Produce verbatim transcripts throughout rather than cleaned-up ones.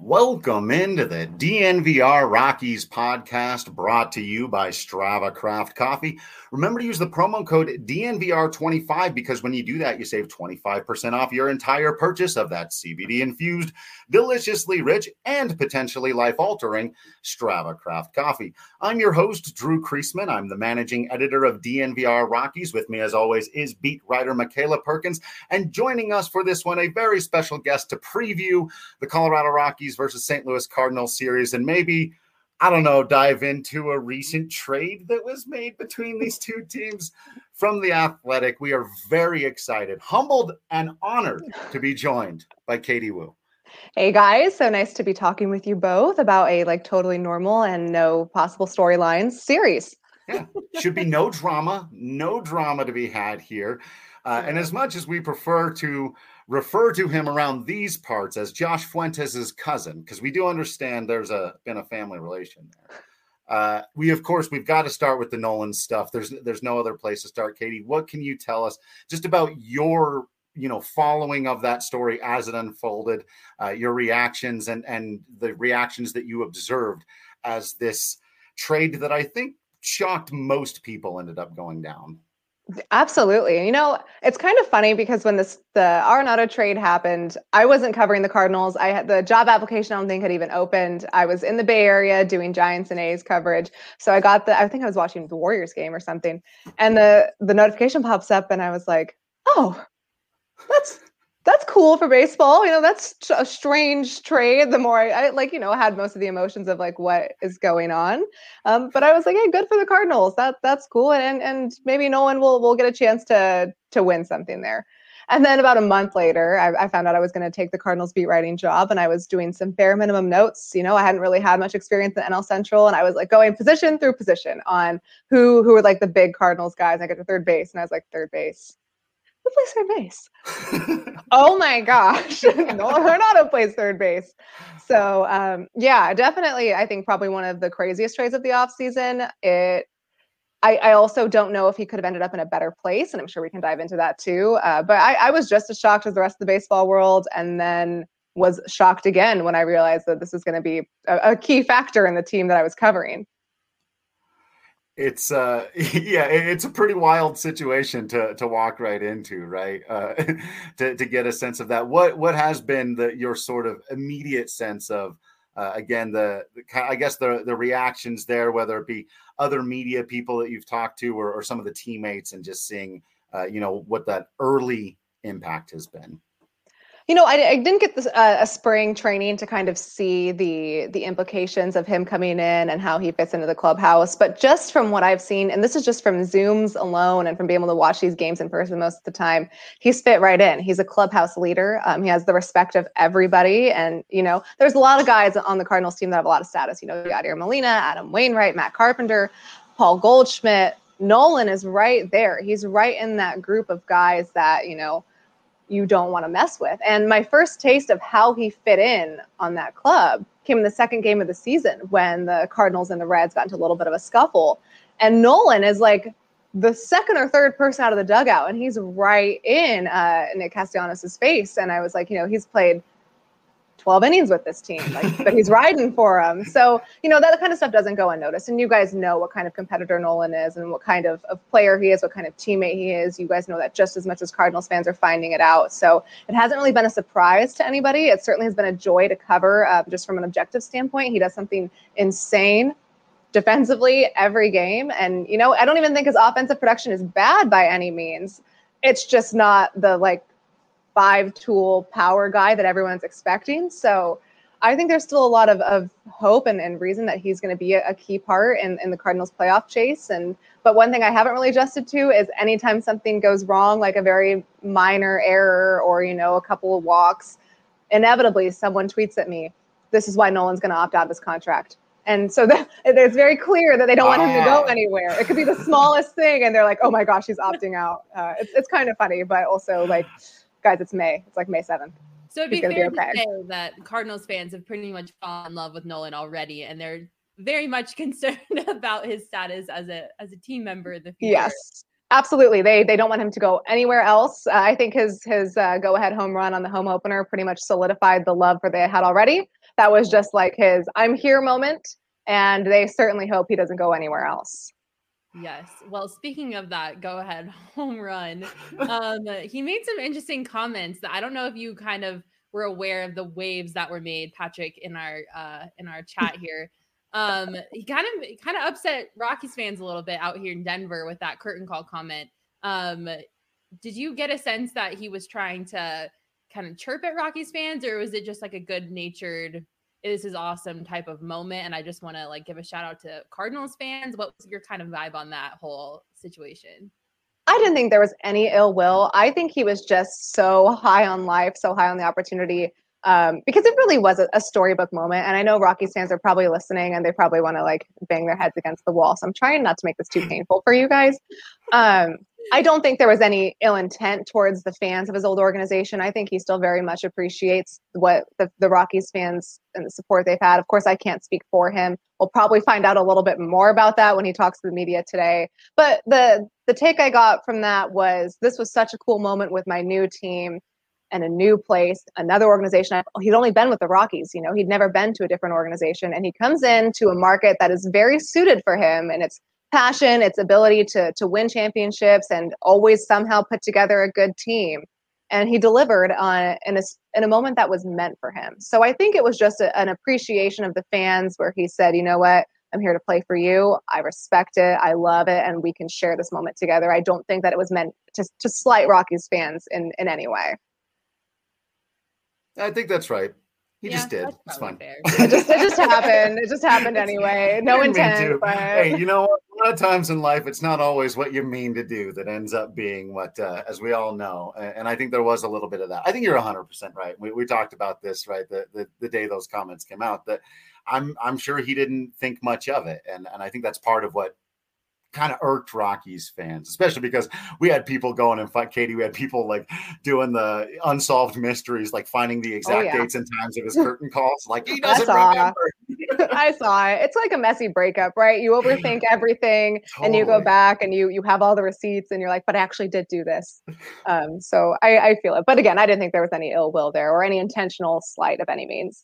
Welcome into the D N V R Rockies podcast, brought to you by Strava Craft Coffee. Remember to use the promo code D N V R twenty-five because when you do that, you save twenty-five percent off your entire purchase of that C B D-infused, deliciously rich, and potentially life-altering Strava Craft Coffee. I'm your host, Drew Kreisman. I'm the managing editor of D N V R Rockies. With me, as always, is beat writer Michaela Perkins. And joining us for this one, a very special guest to preview the Colorado Rockies versus Saint Louis Cardinals series, and maybe, I don't know, dive into a recent trade that was made between these two teams. From The Athletic, we are very excited, humbled, and honored to be joined by Katie Woo. Hey guys, so nice to be talking with you both about a like totally normal and no possible storylines series. Yeah, should be no drama, no drama to be had here. Uh, and as much as we prefer to refer to him around these parts as Josh Fuentes' cousin, because we do understand there's a been a family relation there. Uh, we, of course, we've got to start with the Nolan stuff. There's there's no other place to start. Katie, what can you tell us just about your, you know, following of that story as it unfolded, uh, your reactions and, and the reactions that you observed as this trade that I think shocked most people ended up going down? Absolutely. You know, it's kind of funny because when this the Arenado trade happened, I wasn't covering the Cardinals. I had the job application, I don't think had even opened. I was in the Bay Area doing Giants and A's coverage. So I got the I think I was watching the Warriors game or something. And the the notification pops up and I was like, oh, that's that's cool for baseball. You know, that's a strange trade. The more I, I like, you know, had most of the emotions of like what is going on. Um, but I was like, hey, good for the Cardinals. That that's cool. And and maybe Nolan will will get a chance to to win something there. And then about a month later, I, I found out I was going to take the Cardinals beat writing job, and I was doing some bare minimum notes. You know, I hadn't really had much experience in N L Central, and I was like going position through position on who who were like the big Cardinals guys. And I got to third base, and I was like, third base. Who plays third base? Oh my gosh. No, Arenado plays third base. So um, yeah, definitely. I think probably one of the craziest trades of the offseason. It, I, I also don't know if he could have ended up in a better place, and I'm sure we can dive into that too. Uh, but I, I was just as shocked as the rest of the baseball world, and then was shocked again when I realized that this is going to be a, a key factor in the team that I was covering. It's uh yeah, it's a pretty wild situation to to walk right into, right? Uh, to to get a sense of that. What what has been the your sort of immediate sense of uh, again the, the I guess the the reactions there, whether it be other media people that you've talked to or, or some of the teammates, and just seeing uh, you know what that early impact has been. You know, I, I didn't get this, uh, a spring training to kind of see the the implications of him coming in and how he fits into the clubhouse. But just from what I've seen, and this is just from Zooms alone and from being able to watch these games in person most of the time, he's fit right in. He's a clubhouse leader. Um, he has the respect of everybody. And, you know, there's a lot of guys on the Cardinals team that have a lot of status. You know, Yadier Molina, Adam Wainwright, Matt Carpenter, Paul Goldschmidt. Nolan is right there. He's right in that group of guys that, you know, you don't want to mess with. And my first taste of how he fit in on that club came in the second game of the season when the Cardinals and the Reds got into a little bit of a scuffle. And Nolan is like the second or third person out of the dugout, and he's right in uh, Nick Castellanos' face. And I was like, you know, he's played twelve innings with this team, like, but he's riding for him. So, you know, that kind of stuff doesn't go unnoticed. And you guys know what kind of competitor Nolan is and what kind of, of player he is, what kind of teammate he is. You guys know that just as much as Cardinals fans are finding it out. So it hasn't really been a surprise to anybody. It certainly has been a joy to cover uh, just from an objective standpoint. He does something insane defensively every game. And, you know, I don't even think his offensive production is bad by any means. It's just not the, like, five tool power guy that everyone's expecting. So I think there's still a lot of, of hope and, and reason that he's going to be a, a key part in, in the Cardinals playoff chase. And, but one thing I haven't really adjusted to is anytime something goes wrong, like a very minor error or, you know, a couple of walks, inevitably someone tweets at me, this is why Nolan's going to opt out of his contract. And so that, it's very clear that they don't want him to go anywhere. It could be the smallest thing. And they're like, oh my gosh, he's opting out. Uh, it's, it's kind of funny, but also like, guys, it's May. It's like May seventh. So it'd be fair be okay. to say that Cardinals fans have pretty much fallen in love with Nolan already, and they're very much concerned about his status as a as a team member in the future. Yes, absolutely. They they don't want him to go anywhere else. Uh, I think his his uh, go ahead home run on the home opener pretty much solidified the love for they had already. that was just like his I'm here moment. And they certainly hope he doesn't go anywhere else. Yes. Well, speaking of that, go ahead, home run. Um, he made some interesting comments that I don't know if you kind of were aware of the waves that were made, Patrick, in our uh, in our chat here. Um, he kind of kind of upset Rockies fans a little bit out here in Denver with that curtain call comment. Um, did you get a sense that he was trying to kind of chirp at Rockies fans, or was it just like a good natured, this is awesome type of moment? And I just want to like give a shout out to Cardinals fans. What was your kind of vibe on that whole situation? I didn't think there was any ill will. I think he was just so high on life, so high on the opportunity, um, because it really was a, a storybook moment. And I know Rockies fans are probably listening and they probably want to like bang their heads against the wall. So I'm trying not to make this too painful for you guys. Um, I don't think there was any ill intent towards the fans of his old organization. I think he still very much appreciates what the, the Rockies fans and the support they've had. Of course, I can't speak for him. We'll probably find out a little bit more about that when he talks to the media today. But the the take I got from that was, this was such a cool moment with my new team and a new place, another organization. He'd only been with the Rockies, you know, he'd never been to a different organization. And he comes into a market that is very suited for him, and it's passion, its ability to to win championships and always somehow put together a good team. And he delivered on in a, in a moment that was meant for him. So I think it was just a, an appreciation of the fans where he said, you know what, I'm here to play for you. I respect it. I love it. And we can share this moment together. I don't think that it was meant to, to slight Rockies fans in, in any way. I think that's right. He Yeah, just did. that's It's probably fine. It just, it just happened. It just happened anyway. No Didn't mean intent. to. But Hey, you know what? A lot of times in life, it's not always what you mean to do that ends up being what, uh, as we all know. And, and I think there was a little bit of that. I think you're one hundred percent right. We, we talked about this, right, the, the the day those comments came out, that I'm I'm sure he didn't think much of it. And, and I think that's part of what kind of irked Rockies fans, especially because we had people going and fight Katie. We had people like doing the unsolved mysteries, like finding the exact Oh, yeah. dates and times of his curtain calls. Like, he I doesn't saw. remember. I saw it. It's like a messy breakup, right? You overthink everything, and you go Totally. back and you you have all the receipts, and you're like, but I actually did do this. Um, so I, I feel it. But again, I didn't think there was any ill will there or any intentional slight of any means.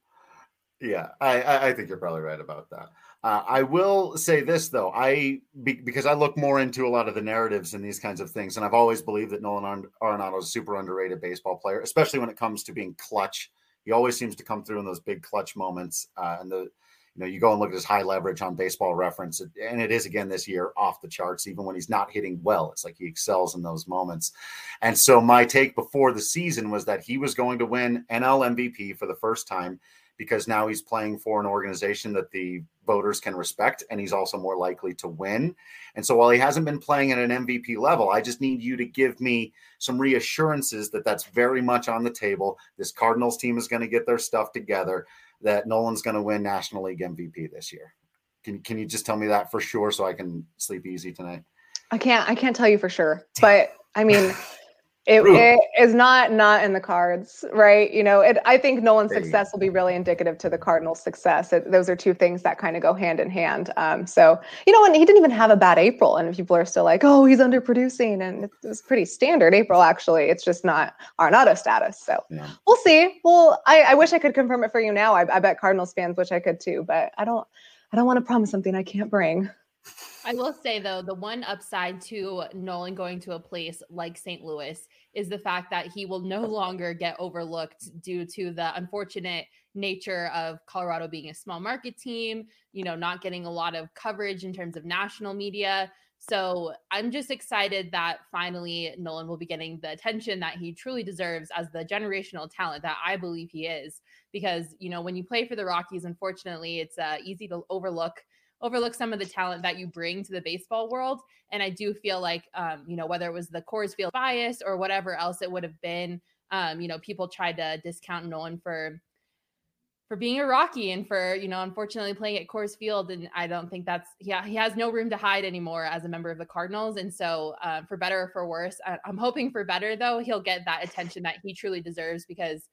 Yeah, I, I I think you're probably right about that. Uh, I will say this though, I be, because I look more into a lot of the narratives and these kinds of things, and I've always believed that Nolan Arenado is a super underrated baseball player, especially when it comes to being clutch. He always seems to come through in those big clutch moments, uh, and the you know you go and look at his high leverage on Baseball Reference, and it is again this year off the charts. Even when he's not hitting well, it's like he excels in those moments. And so my take before the season was that he was going to win N L M V P for the first time, because now he's playing for an organization that the voters can respect, and he's also more likely to win. And so while he hasn't been playing at an M V P level, I just need you to give me some reassurances that that's very much on the table. This Cardinals team is going to get their stuff together, that Nolan's going to win National League M V P this year. Can, can you just tell me that for sure so I can sleep easy tonight? I can't I can't tell you for sure, but I mean, it, it is not not in the cards, right? You know, it, I think Nolan's success will be really indicative to the Cardinals' success. It, those are two things that kind of go hand in hand. Um, so, you know, and he didn't even have a bad April, and people are still like, oh, he's underproducing, and it was pretty standard April, actually. It's just not Arenado status. So yeah. We'll see. Well, I, I wish I could confirm it for you now. I, I bet Cardinals fans wish I could too, but I don't. I don't want to promise something I can't bring. I will say, though, the one upside to Nolan going to a place like Saint Louis is the fact that he will no longer get overlooked due to the unfortunate nature of Colorado being a small market team, you know, not getting a lot of coverage in terms of national media. So I'm just excited that finally Nolan will be getting the attention that he truly deserves as the generational talent that I believe he is. Because, you know, when you play for the Rockies, unfortunately, it's uh, easy to overlook overlook some of the talent that you bring to the baseball world. And I do feel like, um, you know, whether it was the Coors Field bias or whatever else it would have been, um, you know, people tried to discount Nolan for, for being a Rocky and for, you know, unfortunately playing at Coors Field. And I don't think that's, yeah, he has no room to hide anymore as a member of the Cardinals. And so uh, for better or for worse, I, I'm hoping for better, though, he'll get that attention that he truly deserves, because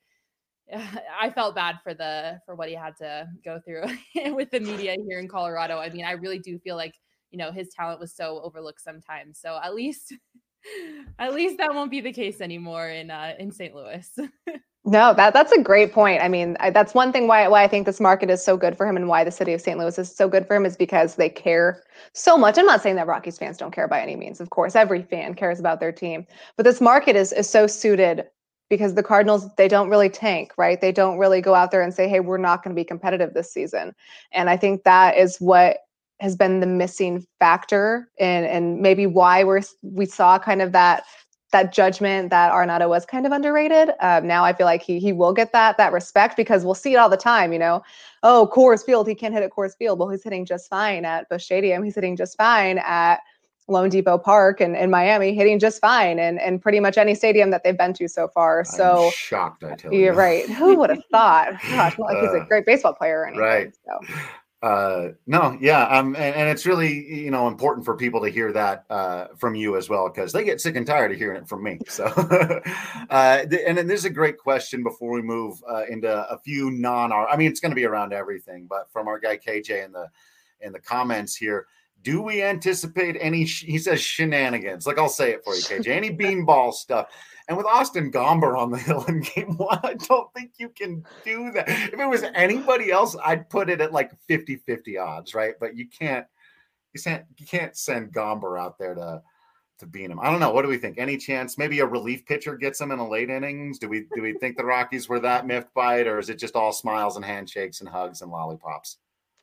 I felt bad for the for what he had to go through with the media here in Colorado. I mean, I really do feel like, you know, his talent was so overlooked sometimes. So at least At least that won't be the case anymore in uh, in Saint Louis. No, that that's a great point. I mean, I, that's one thing why why I think this market is so good for him and why the city of Saint Louis is so good for him is because they care so much. I'm not saying that Rockies fans don't care by any means. Of course, every fan cares about their team, but this market is is so suited because the Cardinals, they don't really tank, right? They don't really go out there and say, "Hey, we're not going to be competitive this season." And I think that is what has been the missing factor and and maybe why we're we saw kind of that that judgment that Arenado was kind of underrated. Um, now I feel like he he will get that that respect because we'll see it all the time, you know. Oh, Coors Field, he can't hit at Coors Field. Well, he's hitting just fine at Busch Stadium. He's hitting just fine at Lone Depot Park and in Miami, hitting just fine and and pretty much any stadium that they've been to so far. So I'm shocked, I tell you. You're right. Who would have thought? Gosh, not like he's a great baseball player or anything. Right. So. Uh, no, yeah, um, and, and it's really, you know, important for people to hear that uh, from you as well, because they get sick and tired of hearing it from me. So, uh, th- and then there's a great question before we move uh, into a few non, I mean, it's going to be around everything, but from our guy K J in the in the comments here, do we anticipate any? Sh- he says shenanigans. Like I'll say it for you, K J. Any beanball stuff. And with Austin Gomber on the hill in game one, I don't think you can do that. If it was anybody else, I'd put it at like fifty-fifty odds, right? But you can't, you can't, you can't send Gomber out there to to beat him. I don't know. What do we think? Any chance maybe a relief pitcher gets him in the late innings? Do we do we think the Rockies were that miffed by it, or is it just all smiles and handshakes and hugs and lollipops?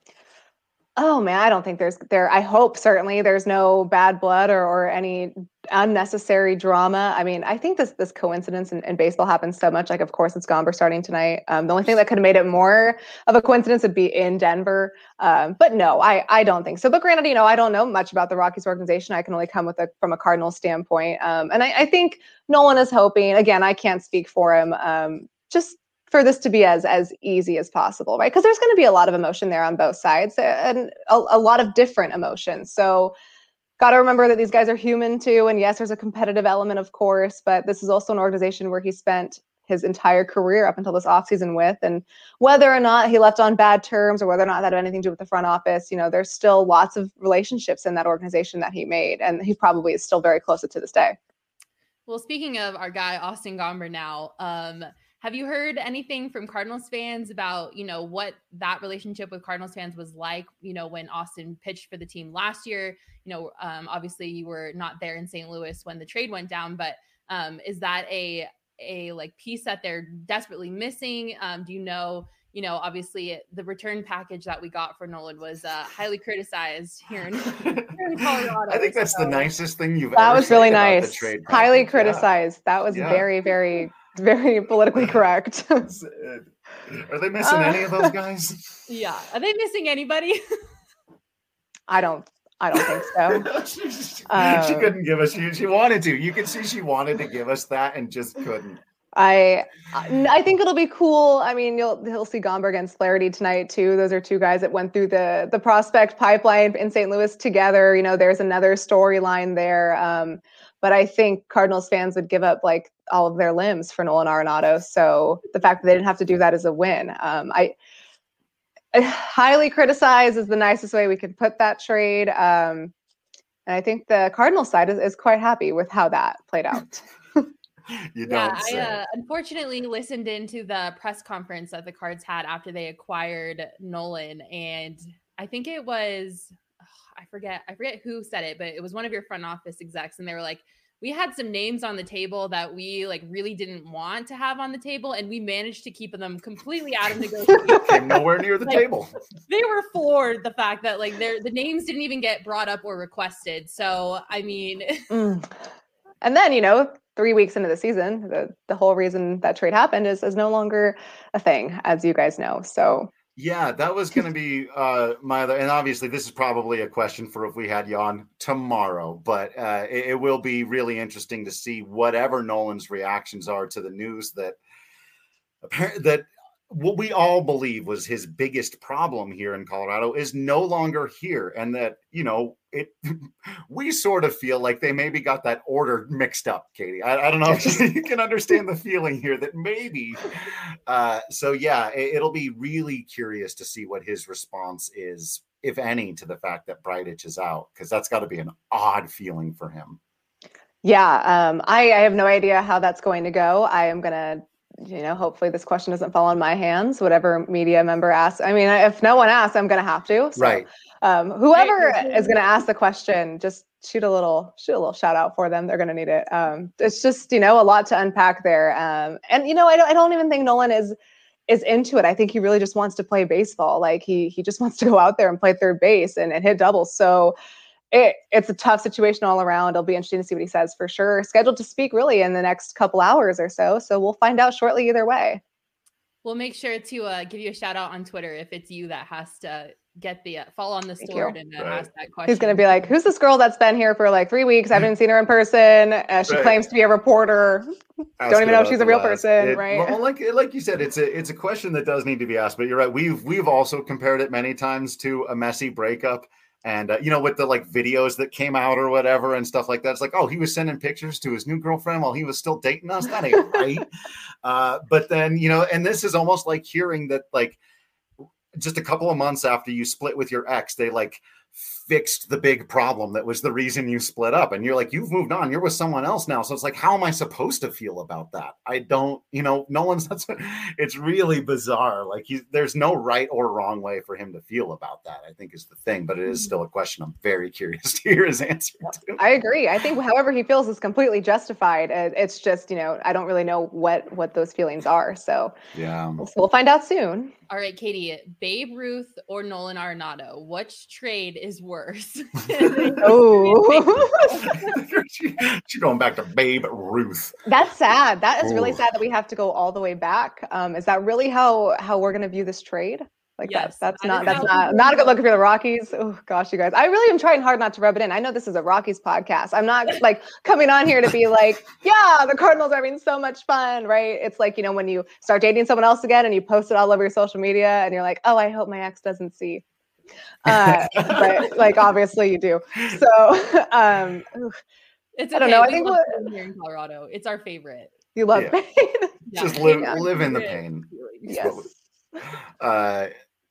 Oh man, I don't think there's there. I hope certainly there's no bad blood or, or any unnecessary drama. I mean, I think this this coincidence in, in baseball happens so much. Like, of course, it's Gomber starting tonight. Um, the only thing that could have made it more of a coincidence would be in Denver. Um, but no, I I don't think so. But granted, you know, I don't know much about the Rockies organization. I can only come with a from a Cardinals standpoint. Um, and I, I think Nolan is hoping. Again, I can't speak for him. Um, just for this to be as as easy as possible, right? Because there's going to be a lot of emotion there on both sides and a, a lot of different emotions. So got to remember that these guys are human too. And yes, there's a competitive element, of course, but this is also an organization where he spent his entire career up until this offseason with. And whether or not he left on bad terms or whether or not that had anything to do with the front office, you know, there's still lots of relationships in that organization that he made. And he probably is still very close to this day. Well, speaking of our guy, Austin Gomber now, um, have you heard anything from Cardinals fans about, you know, what that relationship with Cardinals fans was like, you know, when Austin pitched for the team last year? You know, um, obviously you were not there in Saint Louis when the trade went down, but um, is that a, a like piece that they're desperately missing? Um, do you know, you know, obviously the return package that we got for Nolan was uh, highly criticized here in, here in Colorado. I think that's so. The nicest thing you've that ever was really said about nice. The trade highly package. criticized. Yeah. That was yeah. very, very, very politically correct. Are they missing uh, any of those guys? Yeah. Are they missing anybody? I don't. I don't think so. she, um, she couldn't give us. She, she wanted to. You could see she wanted to give us that and just couldn't. I I think it'll be cool. I mean, you'll you'll see Gomber against Flaherty tonight too. Those are two guys that went through the the prospect pipeline in Saint Louis together. You know, there's another storyline there. Um, but I think Cardinals fans would give up like all of their limbs for Nolan Arenado. So the fact that they didn't have to do that is a win. Um, I, I highly criticize is the nicest way we could put that trade. Um, and I think the Cardinals side is, is quite happy with how that played out. You yeah, don't say. I uh, unfortunately listened into the press conference that the Cards had after they acquired Nolan, and I think it was oh, I forget I forget who said it, but it was one of your front office execs, and they were like, "We had some names on the table that we like really didn't want to have on the table, and we managed to keep them completely out of negotiation." Came nowhere near the like, table. They were floored the fact that like their the names didn't even get brought up or requested. So I mean. Mm. And then, you know, three weeks into the season, the, the whole reason that trade happened is, is no longer a thing, as you guys know. So, yeah, that was going to be uh, my other, and obviously this is probably a question for if we had you on tomorrow, but uh, it, it will be really interesting to see whatever Nolan's reactions are to the news that that what we all believe was his biggest problem here in Colorado is no longer here. And that, you know, it, we sort of feel like they maybe got that order mixed up, Katie. I, I don't know if you can understand the feeling here that maybe. Uh, so, yeah, it, it'll be really curious to see what his response is, if any, to the fact that Bridich is out, because that's got to be an odd feeling for him. Yeah, um, I, I have no idea how that's going to go. I am going to, you know, hopefully this question doesn't fall on my hands, whatever media member asks. I mean, if no one asks, I'm going to have to. So Right. um, whoever is going to ask the question, just shoot a little, shoot a little shout out for them. They're going to need it. Um, it's just, you know, a lot to unpack there. Um, and, you know, I don't, I don't even think Nolan is, is into it. I think he really just wants to play baseball. Like he, he just wants to go out there and play third base and, and hit doubles. So It, it's a tough situation all around. It'll be interesting to see what he says for sure. Scheduled to speak really in the next couple hours or so. So we'll find out shortly either way. We'll make sure to uh, give you a shout out on Twitter if it's you that has to get the uh, fall on the Thank sword you. and uh, Right. ask that question. He's going to be like, who's this girl that's been here for like three weeks? I haven't seen her in person. Uh, she Right. claims to be a reporter. Ask Don't even her know if about she's the a real last- person, it- right? Well, like like you said, it's a it's a question that does need to be asked. But you're right. We've we've also compared it many times to a messy breakup. And, uh, you know, with the like videos that came out or whatever and stuff like that, it's like, oh, he was sending pictures to his new girlfriend while he was still dating us. That ain't right. Uh, but then, you know, and this is almost like hearing that, like, just a couple of months after you split with your ex, they like fixed the big problem that was the reason you split up. And you're like, you've moved on. You're with someone else now. So it's like, how am I supposed to feel about that? I don't, you know, no one's, that's, it's really bizarre. Like he's, there's no right or wrong way for him to feel about that, I think is the thing, but it is still a question I'm very curious to hear his answer to. I agree. I think however he feels is completely justified. Uh, It's just, you know, I don't really know what, what those feelings are. So Yeah. we'll, we'll find out soon. All right, Katie, Babe Ruth or Nolan Arenado, which trade is worse? Oh, she, she's going back to Babe Ruth. that's sad. That is really Ooh. sad that we have to go all the way back. Um, is that really how how we're going to view this trade? Like Yes, that, that's that not is that's how not people not a good know. look for the Rockies. Oh gosh, you guys, I really am trying hard not to rub it in. I know this is a Rockies podcast. I'm not like coming on here to be like, yeah, the Cardinals are having so much fun, right? It's like, you know, when you start dating someone else again and you post it all over your social media and you're like, oh, I hope my ex doesn't see. Uh, but like obviously you do. So um, It's I okay. don't know. I We think love what- pain here in Colorado. It's our favorite. you love Yeah. pain. Yeah. Just live Our live in the favorite pain. feelings. Yes. Uh,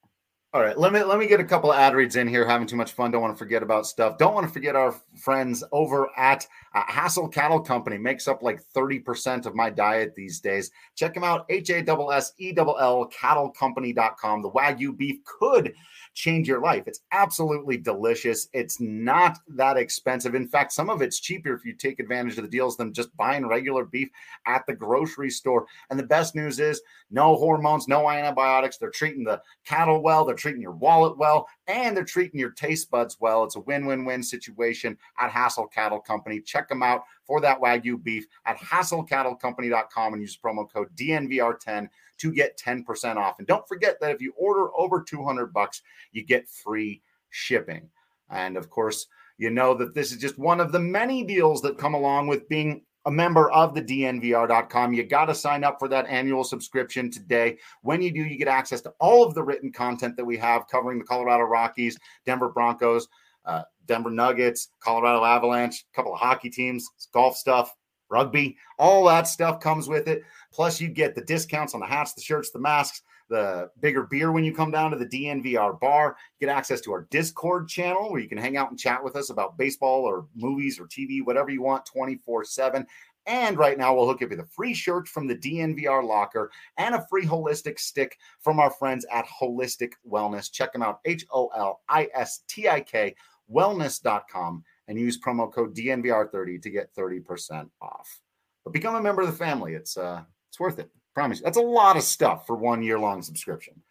all right, let me let me get a couple of ad reads in here. Having too much fun. Don't want to forget about stuff. Don't want to forget our friends over at uh, Hassel Cattle Company. Makes up like thirty percent of my diet these days. Check them out. H A S S E L L cattle company dot com. The Wagyu beef could change your life. It's absolutely delicious. It's not that expensive. In fact, some of it's cheaper if you take advantage of the deals than just buying regular beef at the grocery store. And the best news is no hormones, no antibiotics. They're treating the cattle well. They're treating your wallet well, and they're treating your taste buds well. It's a win-win-win situation at Hassel Cattle Company. Check them out for that Wagyu beef at hassel cattle company dot com and use promo code D N V R ten to get ten percent off. And don't forget that if you order over two hundred bucks, you get free shipping. And of course, you know that this is just one of the many deals that come along with being a member of the D N V R dot com. You got to sign up for that annual subscription today. When you do, you get access to all of the written content that we have covering the Colorado Rockies, Denver Broncos, uh, Denver Nuggets, Colorado Avalanche, a couple of hockey teams, golf stuff, rugby, all that stuff comes with it. Plus, you get the discounts on the hats, the shirts, the masks, the bigger beer when you come down to the D N V R bar. You get access to our Discord channel where you can hang out and chat with us about baseball or movies or T V, whatever you want, twenty-four seven. And right now, we'll hook you with a free shirt from the D N V R locker and a free holistic stick from our friends at Holistic Wellness. Check them out, H O L I S T I K, wellness dot com, and use promo code D N V R thirty to get thirty percent off. But become a member of the family. It's uh, it's worth it. Promise you. That's a lot of stuff for one year-long subscription.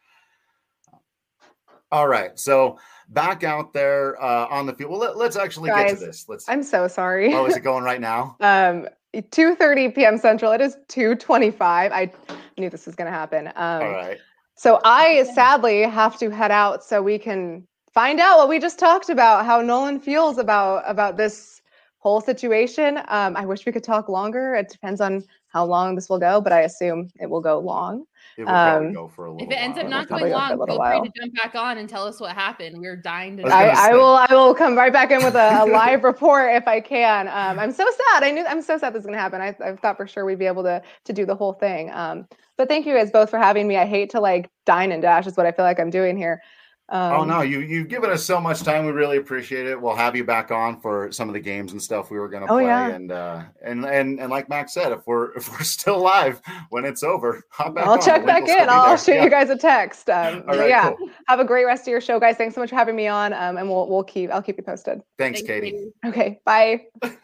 All right, so back out there uh, on the field. Well, let, let's actually Guys, get to this. Let's. I'm so sorry. Oh, is it going right now? um, two thirty p.m. Central. It is two twenty-five. I knew this was going to happen. Um, All right. So I sadly have to head out so we can find out what we just talked about, how Nolan feels about about this whole situation. Um, I wish we could talk longer. It depends on how long this will go, but I assume it will go long. It will probably Um, go for a little If it ends while. up not probably going go for a long, little feel free while. to jump back on and tell us what happened. We're dying to I was know. gonna I, I say. will I will come right back in with a, a live report if I can. Um, I'm so sad. I knew I'm so sad this is gonna happen. I, I thought for sure we'd be able to to do the whole thing. Um, but thank you guys both for having me. I hate to like dine and dash is what I feel like I'm doing here. Um, oh no, you you've given us so much time. We really appreciate it. We'll have you back on for some of the games and stuff we were going to Oh, play. yeah. And uh, and and and like Max said, if we're if we're still live when it's over, hop back I'll on. check The link back will still in. be I'll there. shoot Yeah. you guys a text. Um, All but right, yeah, cool. have a great rest of your show, guys. Thanks so much for having me on. Um, and we'll we'll keep I'll keep you posted. Thanks, Thanks, Katie. Katie. Okay, bye.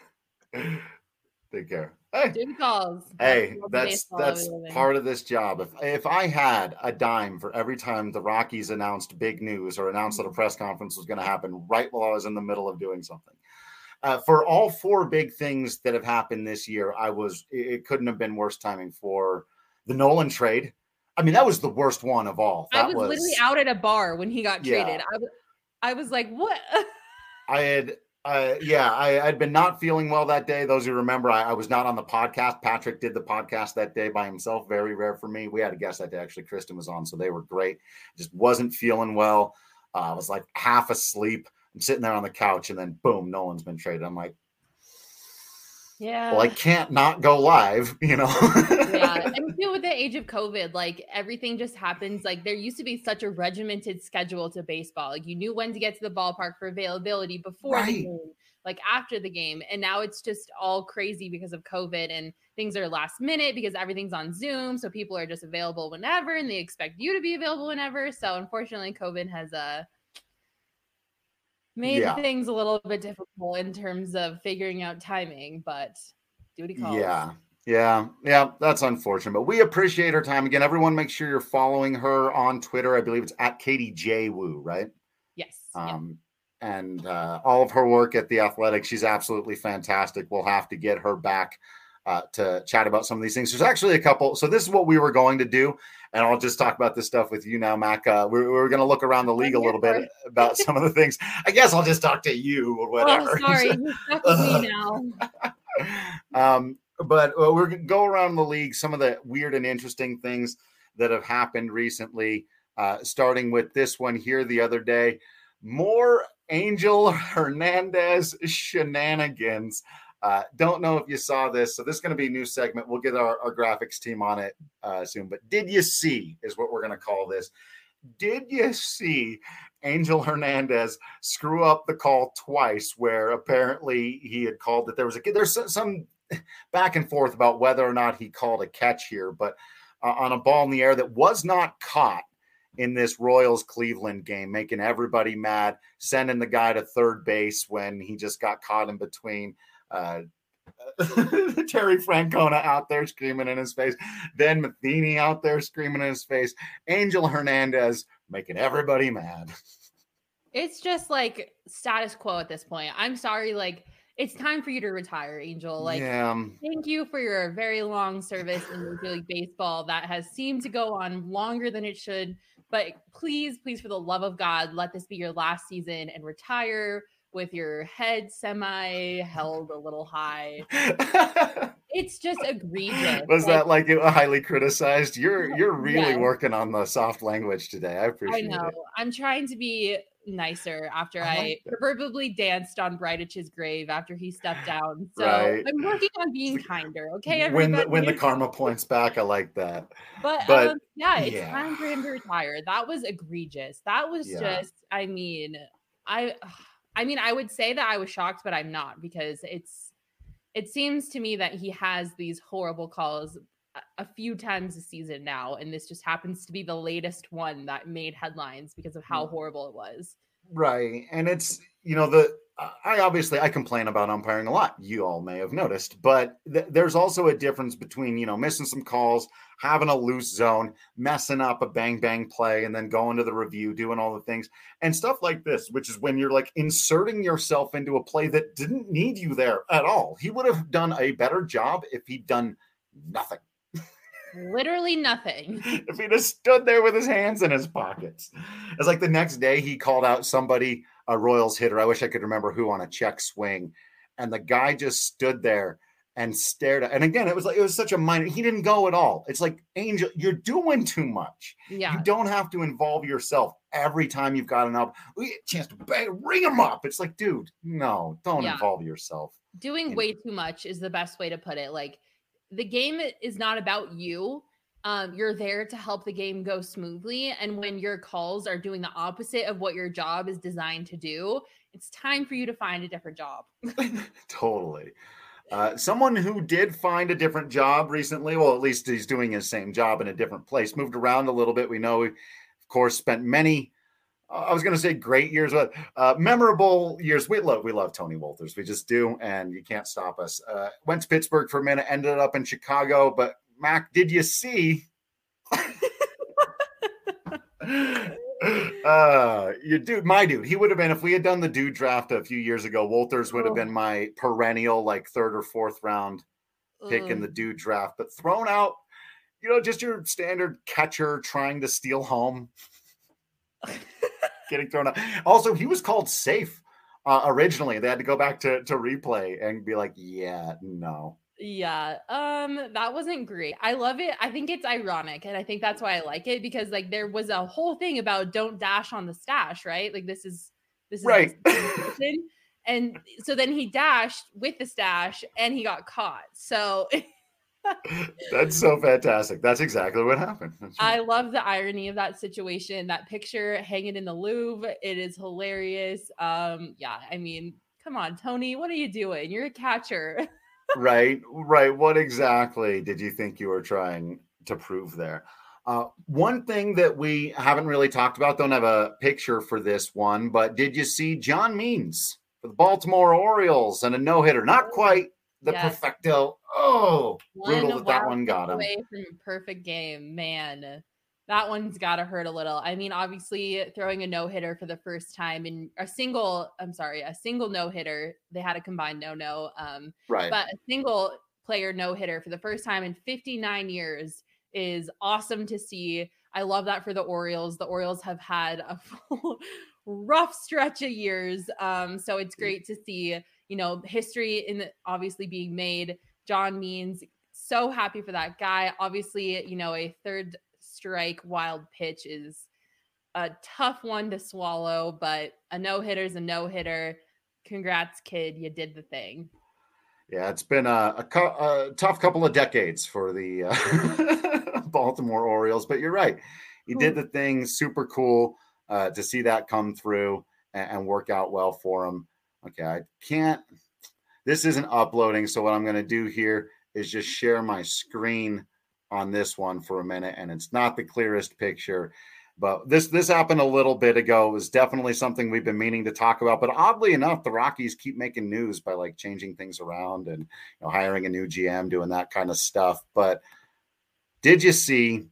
Take care. Hey, Do the calls. hey, Love the that's baseball that's we live in. part of this job. If if I had a dime for every time the Rockies announced big news or announced that a press conference was going to happen right while I was in the middle of doing something. Uh, for all four big things that have happened this year, I was it, it couldn't have been worse timing for the Nolan trade. I mean, that was the worst one of all. That I was, was literally out at a bar when he got Yeah. traded. I was, I was like, what? I had, uh, yeah, I, I'd been not feeling well that day. Those who remember, I, I was not on the podcast. Patrick did the podcast that day by himself. Very rare for me. We had a guest that day. Actually, Kristen was on, so they were great. Just wasn't feeling well. Uh, I was like half asleep. I'm sitting there on the couch, and then boom, Nolan's been traded. I'm like, Yeah. well, I can't not go live, you know? Yeah. And too, with the age of COVID, like everything just happens. Like there used to be such a regimented schedule to baseball. Like you knew when to get to the ballpark for availability before Right. the game, like after the game. And now it's just all crazy because of COVID and things are last minute because everything's on Zoom. So people are just available whenever and they expect you to be available whenever. So unfortunately, COVID has uh, made Yeah. things a little bit difficult in terms of figuring out timing, but duty calls. Yeah. Yeah. Yeah. That's unfortunate, but we appreciate her time. Again, everyone make sure you're following her on Twitter. I believe it's at Katie J. Wu, right? Yes. Um, and uh, all of her work at The Athletic, she's absolutely fantastic. We'll have to get her back uh, to chat about some of these things. There's actually a couple. So this is what we were going to do. And I'll just talk about this stuff with you now, Mac. Uh, we're we're going to look around the league a little bit about some of the things. I guess I'll just talk to you or whatever. Oh, sorry. You're stuck with me now. um, but uh, we're going to go around the league, some of the weird and interesting things that have happened recently, uh, starting with this one here the other day. More Angel Hernandez shenanigans. Uh, don't know if you saw this. So this is going to be a new segment. We'll get our, our graphics team on it uh, soon. But did you see is what we're going to call this. Did you see Angel Hernandez screw up the call twice where apparently he had called that there was a there's some back and forth about whether or not he called a catch here, but uh, on a ball in the air that was not caught in this Royals Cleveland game, making everybody mad, sending the guy to third base when he just got caught in between. Uh, Terry Francona out there screaming in his face, then Matheny out there screaming in his face, Angel Hernandez making everybody mad. It's just like status quo at this point. I'm sorry, like it's time for you to retire, Angel. Like, yeah. Thank you for your very long service in Major League Baseball that has seemed to go on longer than it should. But please, please, for the love of God, let this be your last season and retire with your head semi held a little high. It's just egregious. Was like, that like highly criticized? You're you're really yes. working on the soft language today. I appreciate I know. it. I'm trying to be nicer after I I, like that. proverbially danced on Brightitch's grave after he stepped down. So Right. I'm working on being kinder. Okay, When everybody. the, when the karma points back, I like that. But, But, um, yeah, it's yeah. time for him to retire. That was egregious. That was Yeah. just, I mean, I, I mean, I would say that I was shocked, but I'm not because it's, it seems to me that he has these horrible calls a, a few times a season now. And this just happens to be the latest one that made headlines because of how horrible it was. Right. And it's, you know, the, I obviously, I complain about umpiring a lot. You all may have noticed, but th- there's also a difference between, you know, missing some calls, having a loose zone, messing up a bang, bang play, and then going to the review, doing all the things and stuff like this, which is when you're like inserting yourself into a play that didn't need you there at all. He would have done a better job if he'd done nothing. Literally nothing. If he just stood there with his hands in his pockets. It's like the next day he called out somebody, a Royals hitter. I wish I could remember who, on a check swing. And the guy just stood there and stared at, and again, it was like, it was such a minor, he didn't go at all. It's like, Angel, you're doing too much. Yeah. You don't have to involve yourself every time you've got an up chance to bang, ring him up. It's like, dude, no, don't Yeah. involve yourself. Doing in- way too much is the best way to put it. Like, the game is not about you. Um, you're there to help the game go smoothly. And when your calls are doing the opposite of what your job is designed to do, it's time for you to find a different job. Totally. Uh, someone who did find a different job recently, well, at least he's doing his same job in a different place, moved around a little bit. We know, of course, spent many, uh, I was going to say great years, but uh, memorable years. We love, we love Tony Wolters. We just do, and you can't stop us. Uh, went to Pittsburgh for a minute, ended up in Chicago. But Mac, did you see? uh your dude my dude he would have been, if we had done the dude draft a few years ago, Wolters would have oh. been my perennial like third or fourth round pick Ugh. in the dude draft, but thrown out, you know, just your standard catcher trying to steal home. Getting thrown out. Also, he was called safe uh, originally. They had to go back to to replay and be like, yeah, no. Yeah, um, that wasn't great. I love it. I think it's ironic, and I think that's why I like it, because like there was a whole thing about don't dash on the stash, right? Like this is this is right. And so then he dashed with the stash and he got caught. So that's so fantastic. That's exactly what happened. Right. I love the irony of that situation. That picture hanging in the Louvre, it is hilarious. Um, yeah, I mean, come on, Tony, what are you doing? You're a catcher. Right, right. What exactly did you think you were trying to prove there? Uh, one thing that we haven't really talked about, don't have a picture for this one, but did you see John Means for the Baltimore Orioles and a no-hitter? Not quite the yes. perfecto. Oh, brutal that that one got him. Away from a perfect game, man. That one's got to hurt a little. I mean, obviously throwing a no-hitter for the first time in a single, I'm sorry, a single no-hitter. They had a combined no-no. Um, right. But a single player no-hitter for the first time in fifty-nine years is awesome to see. I love that for the Orioles. The Orioles have had a rough stretch of years. Um, so it's great to see, you know, history in the, obviously being made. John Means, so happy for that guy. Obviously, you know, a third strike wild pitch is a tough one to swallow, but a no-hitter is a no-hitter. Congrats, kid. You did the thing. Yeah, it's been a, a, a tough couple of decades for the uh, Baltimore Orioles, but you're right. He did the thing. Super cool uh, to see that come through and, and work out well for him. Okay, I can't, this isn't uploading, so what I'm going to do here is just share my screen on this one for a minute, and it's not the clearest picture, but this this happened a little bit ago. It was definitely something we've been meaning to talk about, but oddly enough, the Rockies keep making news by like changing things around and, you know, hiring a new G M, doing that kind of stuff. But did you see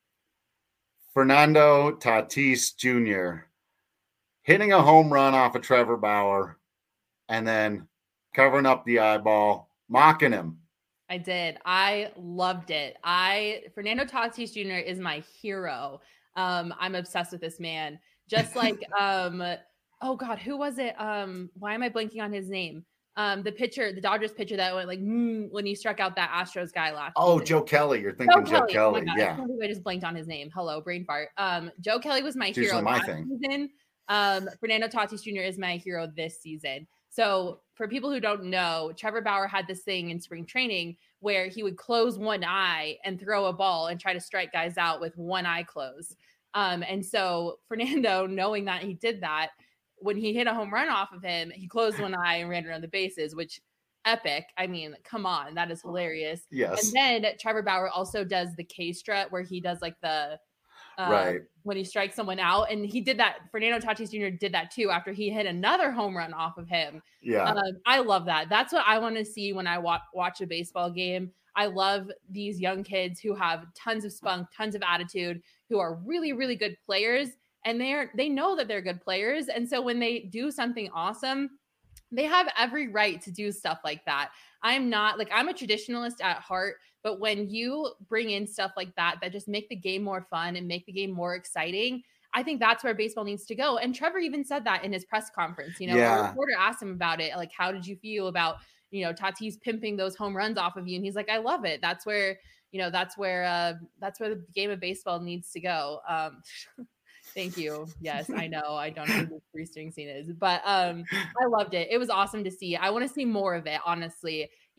Fernando Tatis Junior hitting a home run off of Trevor Bauer and then covering up the eyeball, mocking him? I did. I loved it. I Fernando Tatis Junior is my hero. Um, I'm obsessed with this man. Just like, um, oh God, who was it? Um, why am I blanking on his name? Um, the pitcher, the Dodgers pitcher that went like mm, when he struck out that Astros guy last. Oh, season. Joe Kelly. You're thinking Joe, Joe Kelly. Kelly. Oh yeah. I, I just blanked on his name. Hello, brain fart. Um, Joe Kelly was my it's hero my last thing. season. Um, Fernando Tatis Junior is my hero this season. So for people who don't know, Trevor Bauer had this thing in spring training where he would close one eye and throw a ball and try to strike guys out with one eye closed. Um, and so Fernando, knowing that he did that, when he hit a home run off of him, he closed one eye and ran around the bases, which epic. I mean, come on, that is hilarious. Yes. And then Trevor Bauer also does the K strut where he does like the Uh, right. when he strikes someone out. And he did that. Fernando Tatis Junior did that too after he hit another home run off of him. Yeah. Um, I love that. That's what I want to see when I wa- watch a baseball game. I love these young kids who have tons of spunk, tons of attitude, who are really, really good players. And they're, they know that they're good players. And so when they do something awesome, they have every right to do stuff like that. I'm not like, I'm a traditionalist at heart, but when you bring in stuff like that, that just make the game more fun and make the game more exciting, I think that's where baseball needs to go. And Trevor even said that in his press conference. You know, yeah. a reporter asked him about it. Like, how did you feel about, you know, Tatis pimping those home runs off of you? And he's like, I love it. That's where, you know, that's where, uh, that's where the game of baseball needs to go. Um, Thank you. Yes, I know. I don't know who the Bruce Springsteen is, but um, I loved it. It was awesome to see. I want to see more of it, honestly.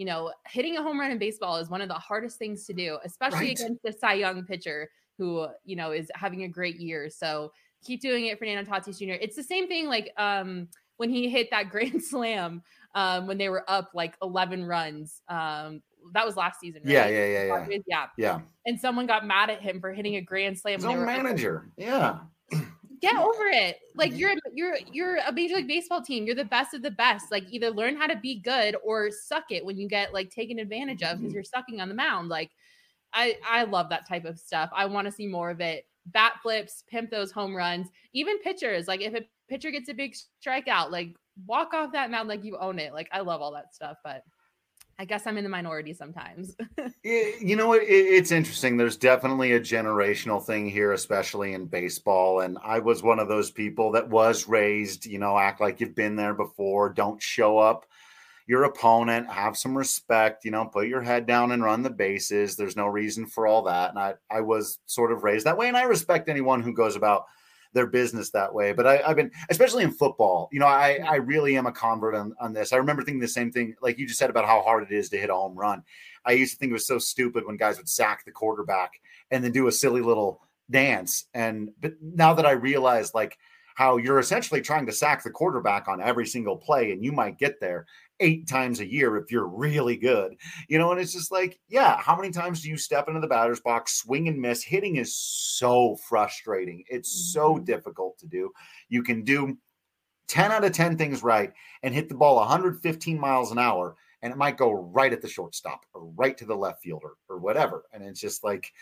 you know, hitting a home run in baseball is one of the hardest things to do, especially Right. against the Cy Young pitcher who, you know, is having a great year. So keep doing it, Fernando Tatis Junior It's the same thing like um, when he hit that grand slam um, when they were up like eleven runs. Um, that was last season, right? Yeah, yeah, yeah, yeah. Yeah. Yeah. And someone got mad at him for hitting a grand slam. His when they own were up. manager. Yeah. Get over it. Like you're you're you're a Major League Baseball team. You're the best of the best. Like either learn how to be good or suck it when you get like taken advantage of because you're sucking on the mound. Like I I love that type of stuff. I want to see more of it. Bat flips, pimp those home runs. Even pitchers. Like if a pitcher gets a big strikeout, like walk off that mound like you own it. Like I love all that stuff, but I guess I'm in the minority sometimes. It, you know what? It, it's interesting. There's definitely a generational thing here, especially in baseball. And I was one of those people that was raised, you know, act like you've been there before. Don't show up your opponent. Have some respect, you know, put your head down and run the bases. There's no reason for all that. And I, I was sort of raised that way. And I respect anyone who goes about their business that way. But I, I've been, especially in football, you know, I, I really am a convert on, on this. I remember thinking the same thing, like you just said about how hard it is to hit a home run. I used to think it was so stupid when guys would sack the quarterback and then do a silly little dance. And, but now that I realize like how you're essentially trying to sack the quarterback on every single play, and you might get there eight times a year if you're really good, you know, and it's just like, yeah, how many times do you step into the batter's box, swing and miss? Hitting is so frustrating. It's so difficult to do. You can do ten out of ten things right and hit the ball one hundred fifteen miles an hour, and it might go right at the shortstop or right to the left fielder or whatever. And it's just like,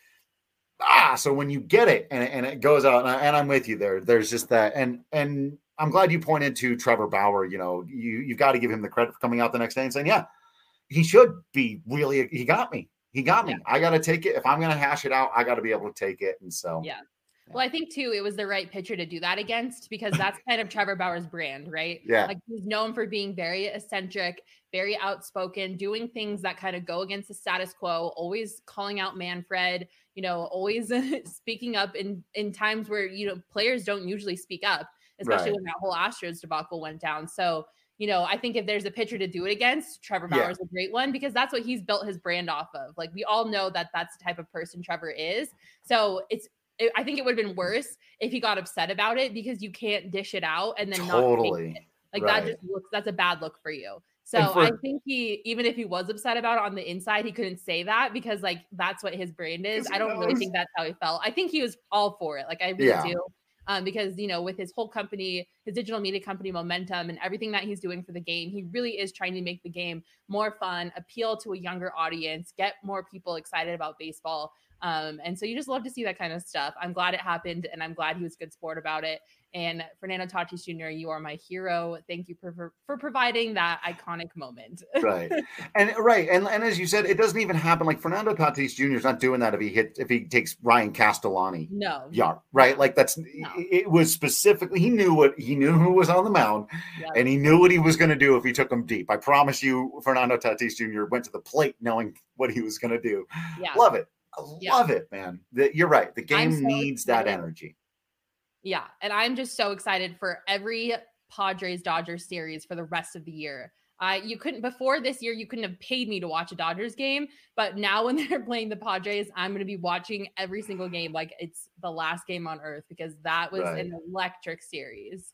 ah, so when you get it and, and it goes out, and, I, and I'm with you there, there's just that. And, and I'm glad you pointed to Trevor Bauer. You know, you, you've got to give him the credit for coming out the next day and saying, yeah, he should be really, he got me. He got me. Yeah. I got to take it. If I'm going to hash it out, I got to be able to take it. And so, yeah. Well, I think too, it was the right pitcher to do that against because that's kind of Trevor Bauer's brand, right? Yeah. Like he's known for being very eccentric, very outspoken, doing things that kind of go against the status quo, always calling out Manfred, you know, always speaking up in, in times where, you know, players don't usually speak up, especially right. when that whole Astros debacle went down. So, you know, I think if there's a pitcher to do it against, Trevor Bauer is yeah. a great one because that's what he's built his brand off of. Like we all know that that's the type of person Trevor is. So it's, I think it would have been worse if he got upset about it because you can't dish it out and then totally. not take it. Like right. that just looks, that's a bad look for you. So for, I think he, even if he was upset about it on the inside, he couldn't say that because like, that's what his brand is. I don't knows. really think that's how he felt. I think he was all for it. Like I really yeah. do. Um, because, you know, with his whole company, his digital media company Momentum and everything that he's doing for the game, he really is trying to make the game more fun, appeal to a younger audience, get more people excited about baseball. Um, and so you just love to see that kind of stuff. I'm glad it happened and I'm glad he was a good sport about it. And Fernando Tatis Junior, you are my hero. Thank you for, for, for providing that iconic moment. right. And right. And, and as you said, it doesn't even happen. Like Fernando Tatis Junior is not doing that if he hit, if he takes Ryan Castellani. No. Yeah. Right. Like that's, no. it was specifically, he knew what he knew who was on the mound yep. and he knew what he was going to do if he took him deep. I promise you, Fernando Tatis Junior went to the plate knowing what he was going to do. Yeah. Love it. I yeah. love it, man. The, you're right. The game so needs excited. that energy. Yeah. And I'm just so excited for every Padres Dodgers series for the rest of the year. Uh, you couldn't before this year, you couldn't have paid me to watch a Dodgers game, but now when they're playing the Padres, I'm going to be watching every single game. Like it's the last game on earth because that was right. an electric series.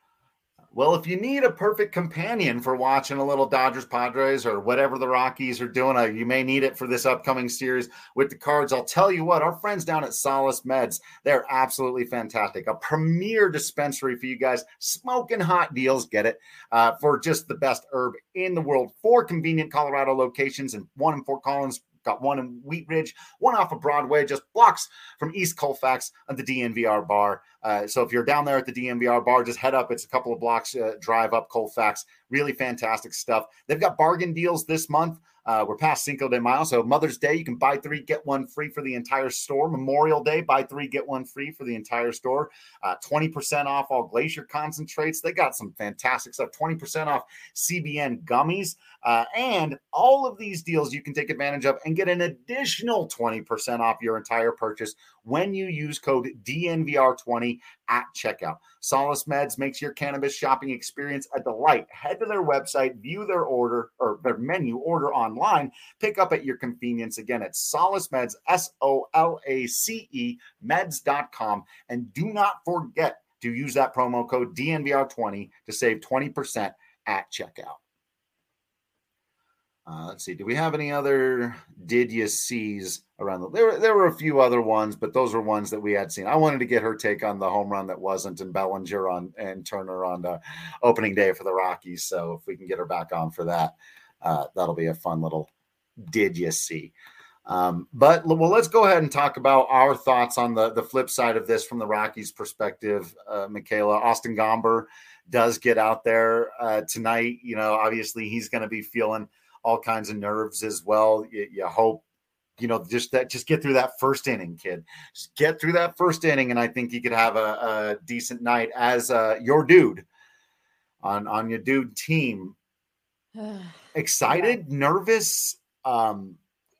Well, if you need a perfect companion for watching a little Dodgers Padres or whatever the Rockies are doing, uh, you may need it for this upcoming series with the Cards. I'll tell you what, our friends down at Solace Meds, they're absolutely fantastic. A premier dispensary for you guys, smoking hot deals, get it, uh, for just the best herb in the world. Four convenient Colorado locations and one in Fort Collins. Got one in Wheat Ridge, one off of Broadway, just blocks from East Colfax at the D N V R bar. Uh, so if you're down there at the D N V R bar, just head up. It's a couple of blocks uh, drive up Colfax. Really fantastic stuff. They've got bargain deals this month. Uh, we're past Cinco de Mayo. So Mother's Day, you can buy three, get one free for the entire store. Memorial Day, buy three, get one free for the entire store. Uh, twenty percent off all Glacier concentrates. They got some fantastic stuff. twenty percent off C B N gummies. Uh, and all of these deals you can take advantage of and get an additional twenty percent off your entire purchase when you use code D N V R twenty at checkout. Solace Meds makes your cannabis shopping experience a delight. Head to their website, view their order or their menu, order online, pick up at your convenience. Again, it's Solace Meds, S O L A C E, meds dot com. And do not forget to use that promo code D N V R twenty to save twenty percent at checkout. Uh, let's see. Do we have any other did you sees around the there? There were a few other ones, but those were ones that we had seen. I wanted to get her take on the home run that wasn't, and Bellinger on and Turner on the opening day for the Rockies. So if we can get her back on for that, uh, that'll be a fun little did you see. Um, but well, let's go ahead and talk about our thoughts on the the flip side of this from the Rockies' perspective. Uh, Michaela, Austin Gomber does get out there uh, tonight. You know, obviously he's going to be feeling all kinds of nerves as well. You, you hope, you know, just that, just get through that first inning, kid. Just get through that first inning, and I think you could have a, a decent night as uh, your dude on on your dude team. Excited, yeah. Nervous, um,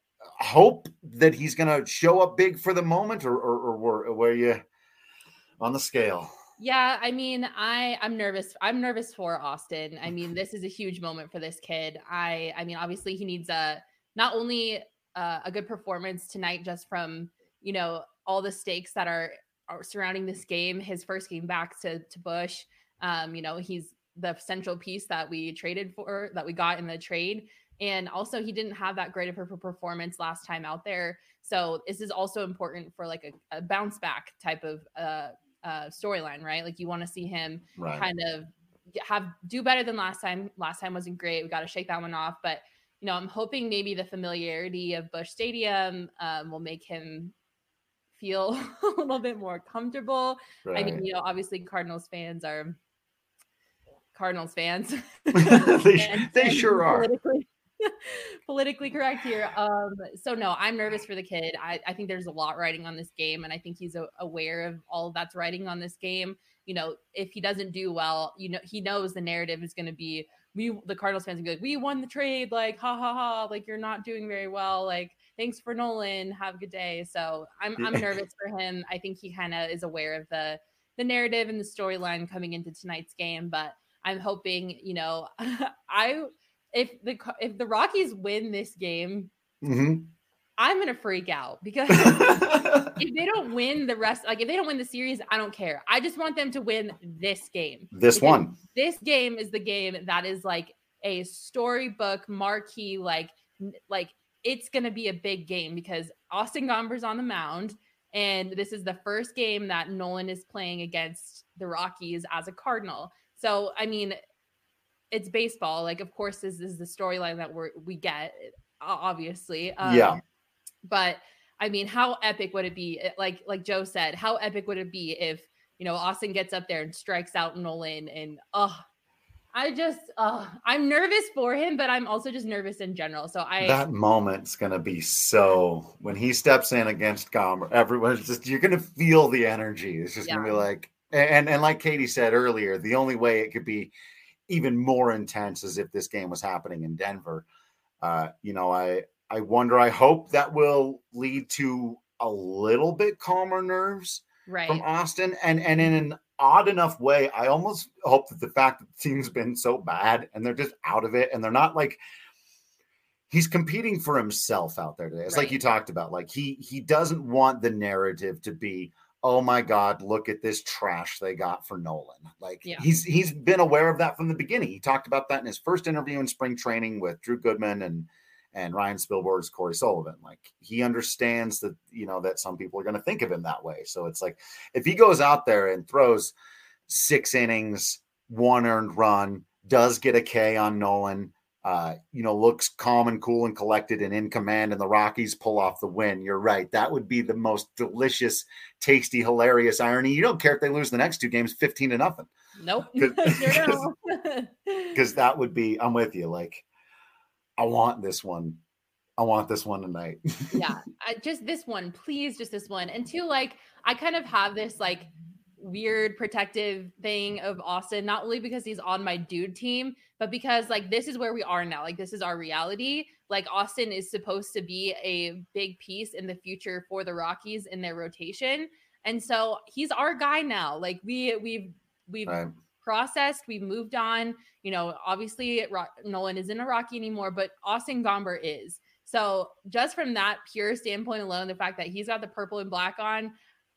hope that he's going to show up big for the moment, or or, or were, were you on the scale? Yeah, I mean, I I'm nervous. I'm nervous for Austin. I mean, this is a huge moment for this kid. I I mean, obviously he needs a not only a, a good performance tonight, just from, you know, all the stakes that are, are surrounding this game. His first game back to to Busch. Um, you know, he's the central piece that we traded for, that we got in the trade. And also he didn't have that great of a performance last time out there. So this is also important for like a, a bounce back type of uh uh storyline, right? Like you want to see him right. kind of have do better than last time. Last time wasn't great. We got to shake that one off. But you know, I'm hoping maybe the familiarity of Busch Stadium um, will make him feel a little bit more comfortable. Right. I mean, you know, obviously Cardinals fans are Cardinals fans. they and, they and sure are. Politically, politically correct here. Um, so no, I'm nervous for the kid. I, I think there's a lot riding on this game, and I think he's a, aware of all that's riding on this game. You know, if he doesn't do well, you know, he knows the narrative is going to be, we, the Cardinals fans, are going to be like, we won the trade, like, ha ha ha, like you're not doing very well, like thanks for Nolan, have a good day. So I'm I'm nervous for him. I think he kind of is aware of the the narrative and the storyline coming into tonight's game, but I'm hoping, you know, I. If the if the Rockies win this game, mm-hmm. I'm gonna freak out because if they don't win the rest, like if they don't win the series, I don't care. I just want them to win this game. This one. This game is the game that is like a storybook marquee. Like like it's gonna be a big game because Austin Gomber's on the mound, and this is the first game that Nolan is playing against the Rockies as a Cardinal. So I mean, it's baseball. Like, of course, this is the storyline that we we get, obviously. Um, yeah. But I mean, how epic would it be? Like, like Joe said, how epic would it be if, you know, Austin gets up there and strikes out Nolan? And oh, I just, uh, I'm nervous for him, but I'm also just nervous in general. So I that moment's gonna be so when he steps in against Gomber, everyone's just you're gonna feel the energy. It's just yeah. gonna be like, and and like Katie said earlier, the only way it could be even more intense as if this game was happening in Denver. Uh, you know, I, I wonder, I hope that will lead to a little bit calmer nerves right. from Austin. And, and in an odd enough way, I almost hope that the fact that the team's been so bad and they're just out of it and they're not like, he's competing for himself out there today. It's right. like you talked about, like he, he doesn't want the narrative to be, oh my God, look at this trash they got for Nolan. Like yeah. he's he's been aware of that from the beginning. He talked about that in his first interview in spring training with Drew Goodman and and Ryan Spilborgh's Corey Sullivan. Like he understands that, you know, that some people are going to think of him that way. So it's like if he goes out there and throws six innings, one earned run, does get a K on Nolan, Uh, you know, looks calm and cool and collected and in command, and the Rockies pull off the win. You're right. That would be the most delicious, tasty, hilarious irony. You don't care if they lose the next two games fifteen to nothing. Nope. Because that would be, I'm with you. Like, I want this one. I want this one tonight. yeah. I, just this one, please. Just this one. And two, like, I kind of have this, like, weird protective thing of Austin, not only because he's on my dude team, but because like this is where we are now. Like this is our reality. like Austin is supposed to be a big piece in the future for the Rockies in their rotation. And so he's our guy now. Like we, we've, we've right. processed, we've moved on, you know, obviously Ro- Nolan isn't a Rocky anymore, but Austin Gomber is. So just from that pure standpoint alone, the fact that he's got the purple and black on,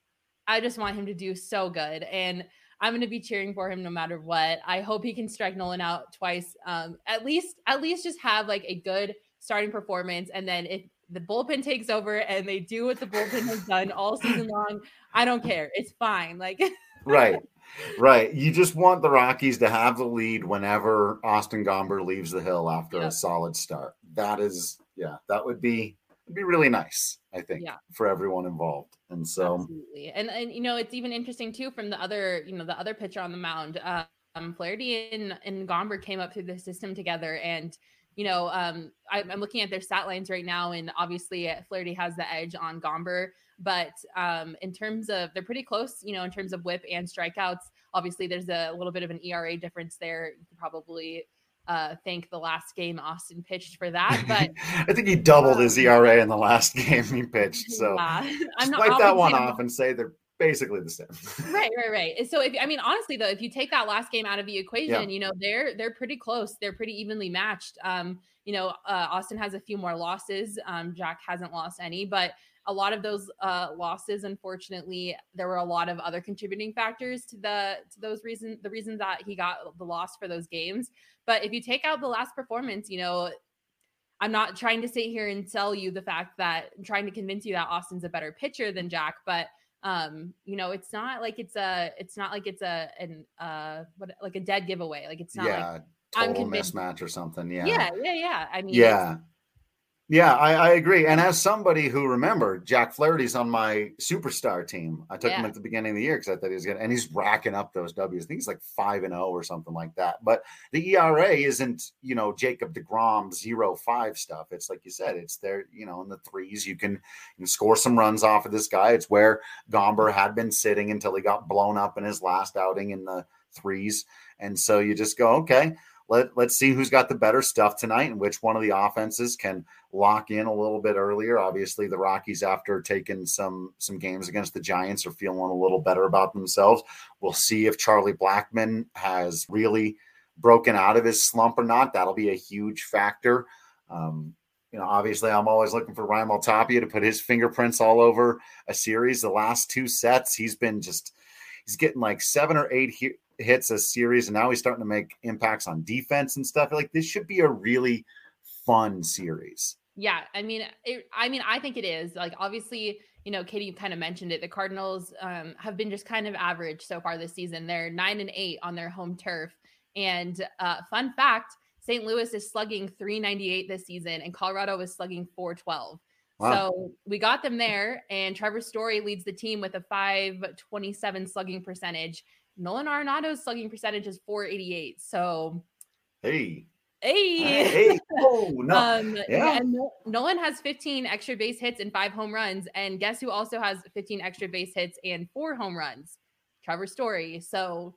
I just want him to do so good. And I'm going to be cheering for him no matter what. I hope he can strike Nolan out twice. Um, at least, at least just have like a good starting performance. And then if the bullpen takes over and they do what the bullpen has done all season long, I don't care. It's fine. Like, right. Right. You just want the Rockies to have the lead whenever Austin Gomber leaves the hill after yep. a solid start. That is, yeah, that would be, would be really nice, I think, yeah. for everyone involved. And so, absolutely. And, and, you know, it's even interesting too, from the other, you know, the other pitcher on the mound, um, Flaherty and, and Gomber came up through the system together. And, you know, um, I, I'm looking at their stat lines right now, and obviously Flaherty has the edge on Gomber. But um, in terms of, they're pretty close, you know, in terms of whip and strikeouts. Obviously, there's a little bit of an E R A difference there. You could probably uh, thank the last game Austin pitched for that. But I think he doubled um, his E R A in the last game he pitched. So yeah. I'm not wipe that one off and say they're basically the same. Right, right, right. So if I mean, honestly, though, if you take that last game out of the equation, yeah. you know, they're they're pretty close. They're pretty evenly matched. Um, you know, uh, Austin has a few more losses. Um, Jack hasn't lost any, but a lot of those uh, losses, unfortunately, there were a lot of other contributing factors to the to those reasons, the reasons that he got the loss for those games. But if you take out the last performance, you know, I'm not trying to sit here and tell you the fact that I'm trying to convince you that Austin's a better pitcher than Jack, but um, you know, it's not like it's a, it's not like it's a, an, uh, what, like a dead giveaway. Like it's not yeah, like total mismatch or something. Yeah. Yeah. Yeah. Yeah. I mean, yeah. Yeah, I, I agree. And as somebody who, remember, Jack Flaherty's on my superstar team. I took yeah. him at the beginning of the year because I thought he was good. And he's racking up those W's. I think he's like five and oh or something like that. But the E R A isn't, you know, Jacob deGrom zero five stuff. It's like you said, it's there, you know, in the threes. You can, you can score some runs off of this guy. It's where Gomber had been sitting until he got blown up in his last outing in the threes. And so you just go, okay. Let, let's see who's got the better stuff tonight and which one of the offenses can lock in a little bit earlier. Obviously, the Rockies, after taking some some games against the Giants, are feeling a little better about themselves. We'll see if Charlie Blackmon has really broken out of his slump or not. That'll be a huge factor. Um, you know, obviously, I'm always looking for Raimel Tapia to put his fingerprints all over a series. The last two sets, he's been just – he's getting like seven or eight he- hits a series, and now he's starting to make impacts on defense and stuff. Like, this should be a really fun series. Yeah, I mean, it, I mean, I think it is. Like, obviously, you know, Katie, you kind of mentioned it. The Cardinals um, have been just kind of average so far this season. They're nine and eight on their home turf. And uh, fun fact, Saint Louis is slugging three ninety-eight this season, and Colorado is slugging four twelve. Wow. So we got them there, and Trevor Story leads the team with a five twenty-seven slugging percentage. Nolan Arenado's slugging percentage is four eighty-eight. So, hey, hey, hey, oh no, um, yeah. And Nolan has fifteen extra base hits and five home runs, and guess who also has fifteen extra base hits and four home runs? Trevor Story. So,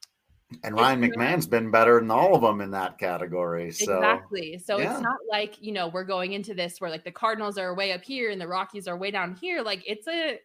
and Ryan McMahon's been better than all of them in that category. So exactly. So yeah. It's not like, you know, we're going into this where like the Cardinals are way up here and the Rockies are way down here. Like it's a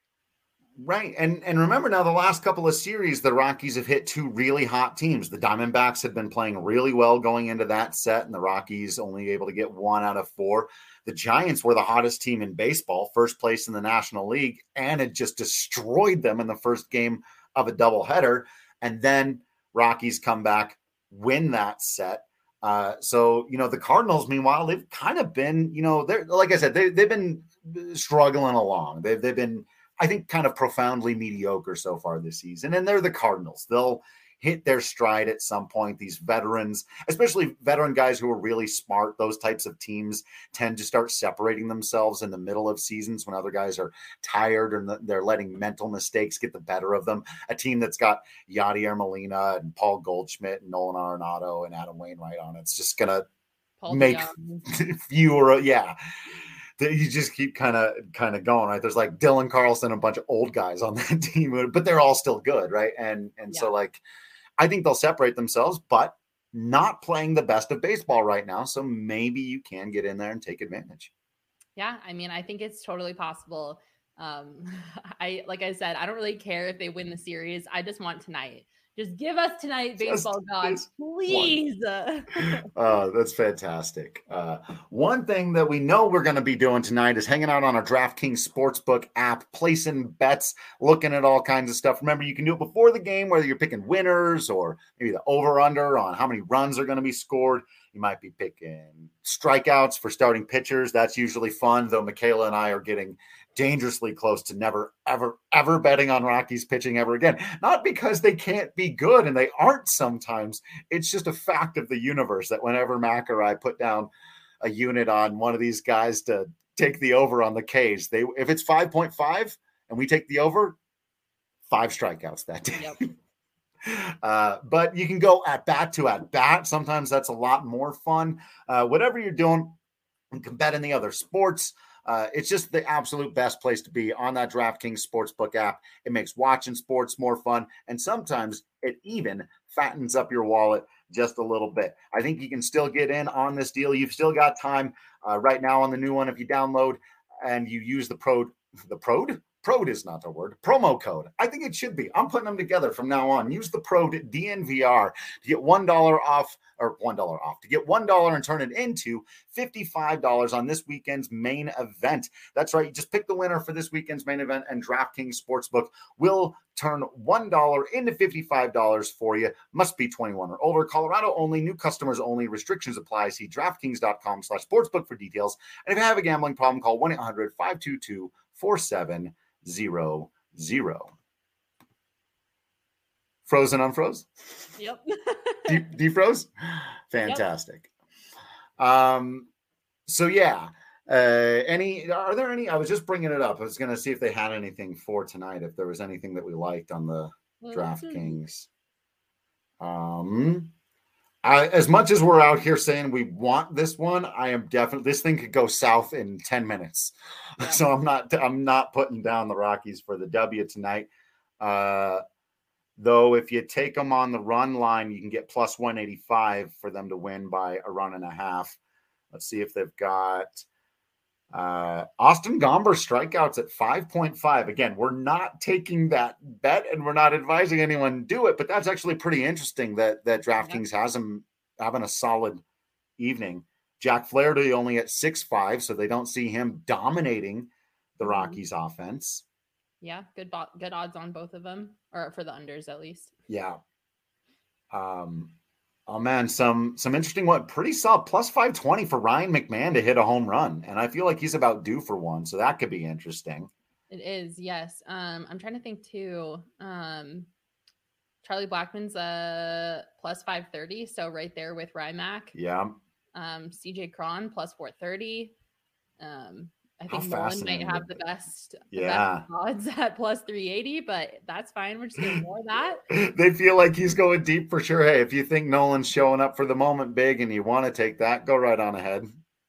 Right. And and remember now, the last couple of series, the Rockies have hit two really hot teams. The Diamondbacks had been playing really well going into that set, and the Rockies only able to get one out of four. The Giants were the hottest team in baseball, first place in the National League, and it just destroyed them in the first game of a doubleheader. And then Rockies come back, win that set. Uh, so, you know, the Cardinals, meanwhile, they've kind of been, you know, they're, like I said, they, they've been struggling along. They've, they've been, I think, kind of profoundly mediocre so far this season. And they're the Cardinals. They'll hit their stride at some point. These veterans, especially veteran guys who are really smart, those types of teams tend to start separating themselves in the middle of seasons when other guys are tired or they're letting mental mistakes get the better of them. A team that's got Yadier Molina and Paul Goldschmidt and Nolan Arenado and Adam Wainwright on, it's just going to make fewer. Yeah. You just keep kind of kind of going, right? There's like Dylan Carlson, a bunch of old guys on that team, but they're all still good, right? And and yeah. so like, I think they'll separate themselves, but not playing the best of baseball right now. So maybe you can get in there and take advantage. Yeah, I mean, I think it's totally possible. Um, I like I said, I don't really care if they win the series. I just want tonight. Just give us tonight, baseball gods, please. uh, that's fantastic. Uh, one thing that we know we're going to be doing tonight is hanging out on our DraftKings Sportsbook app, placing bets, looking at all kinds of stuff. Remember, you can do it before the game, whether you're picking winners or maybe the over-under on how many runs are going to be scored. You might be picking strikeouts for starting pitchers. That's usually fun, though Michaela and I are getting dangerously close to never, ever, ever betting on Rockies pitching ever again. Not because they can't be good, and they aren't sometimes. It's just a fact of the universe that whenever Mac or I put down a unit on one of these guys to take the over on the K's, they if it's five point five and we take the over, five strikeouts that day. Yep. Uh, but you can go at bat to at bat. Sometimes that's a lot more fun. Uh, whatever you're doing, you can bet in the other sports. Uh, it's just the absolute best place to be on that DraftKings Sportsbook app. It makes watching sports more fun, and sometimes it even fattens up your wallet just a little bit. I think you can still get in on this deal. You've still got time uh, right now on the new one. If you download and you use the Prode, the Prode? Prode is not the word. Promo code. I think it should be. I'm putting them together from now on. Use the Prode D N V R to get one dollar off, or one dollar off, to get one dollar and turn it into fifty-five dollars on this weekend's main event. That's right. You just pick the winner for this weekend's main event, and DraftKings Sportsbook will turn one dollar into fifty-five dollars for you. Must be twenty-one or older. Colorado only. New customers only. Restrictions apply. See DraftKings.com slash sportsbook for details. And if you have a gambling problem, call one eight hundred five two two four seven zero zero. Frozen unfroze? Yep. De- defroze? Fantastic. Yep. Um, so yeah. Uh, any, are there any, I was just bringing it up. I was going to see if they had anything for tonight, if there was anything that we liked on the well, DraftKings. Um, I, as much as we're out here saying we want this one, I am definitely, this thing could go south in ten minutes. Yeah. So I'm not, I'm not putting down the Rockies for the W tonight. Uh, though, if you take them on the run line, you can get plus one eighty-five for them to win by a run and a half. Let's see if they've got uh, Austin Gomber strikeouts at five point five. Again, we're not taking that bet and we're not advising anyone do it, but that's actually pretty interesting that, that DraftKings yeah. has him having a solid evening. Jack Flaherty only at six five, so they don't see him dominating the Rockies mm-hmm. offense. Yeah, good bo- good odds on both of them, or for the unders at least. Yeah. Um. Oh man, some some interesting one. Pretty solid plus five twenty for Ryan McMahon to hit a home run, and I feel like he's about due for one, so that could be interesting. It is, yes. Um, I'm trying to think too. Um, Charlie Blackmon's uh plus five thirty, so right there with Rymac. Yeah. Um, C J Cron plus four thirty. Um, I think Nolan might have the best, yeah. the best odds at plus three eighty, but that's fine. We're just getting more of that. They feel like he's going deep for sure. Hey, if you think Nolan's showing up for the moment big and you want to take that, go right on ahead.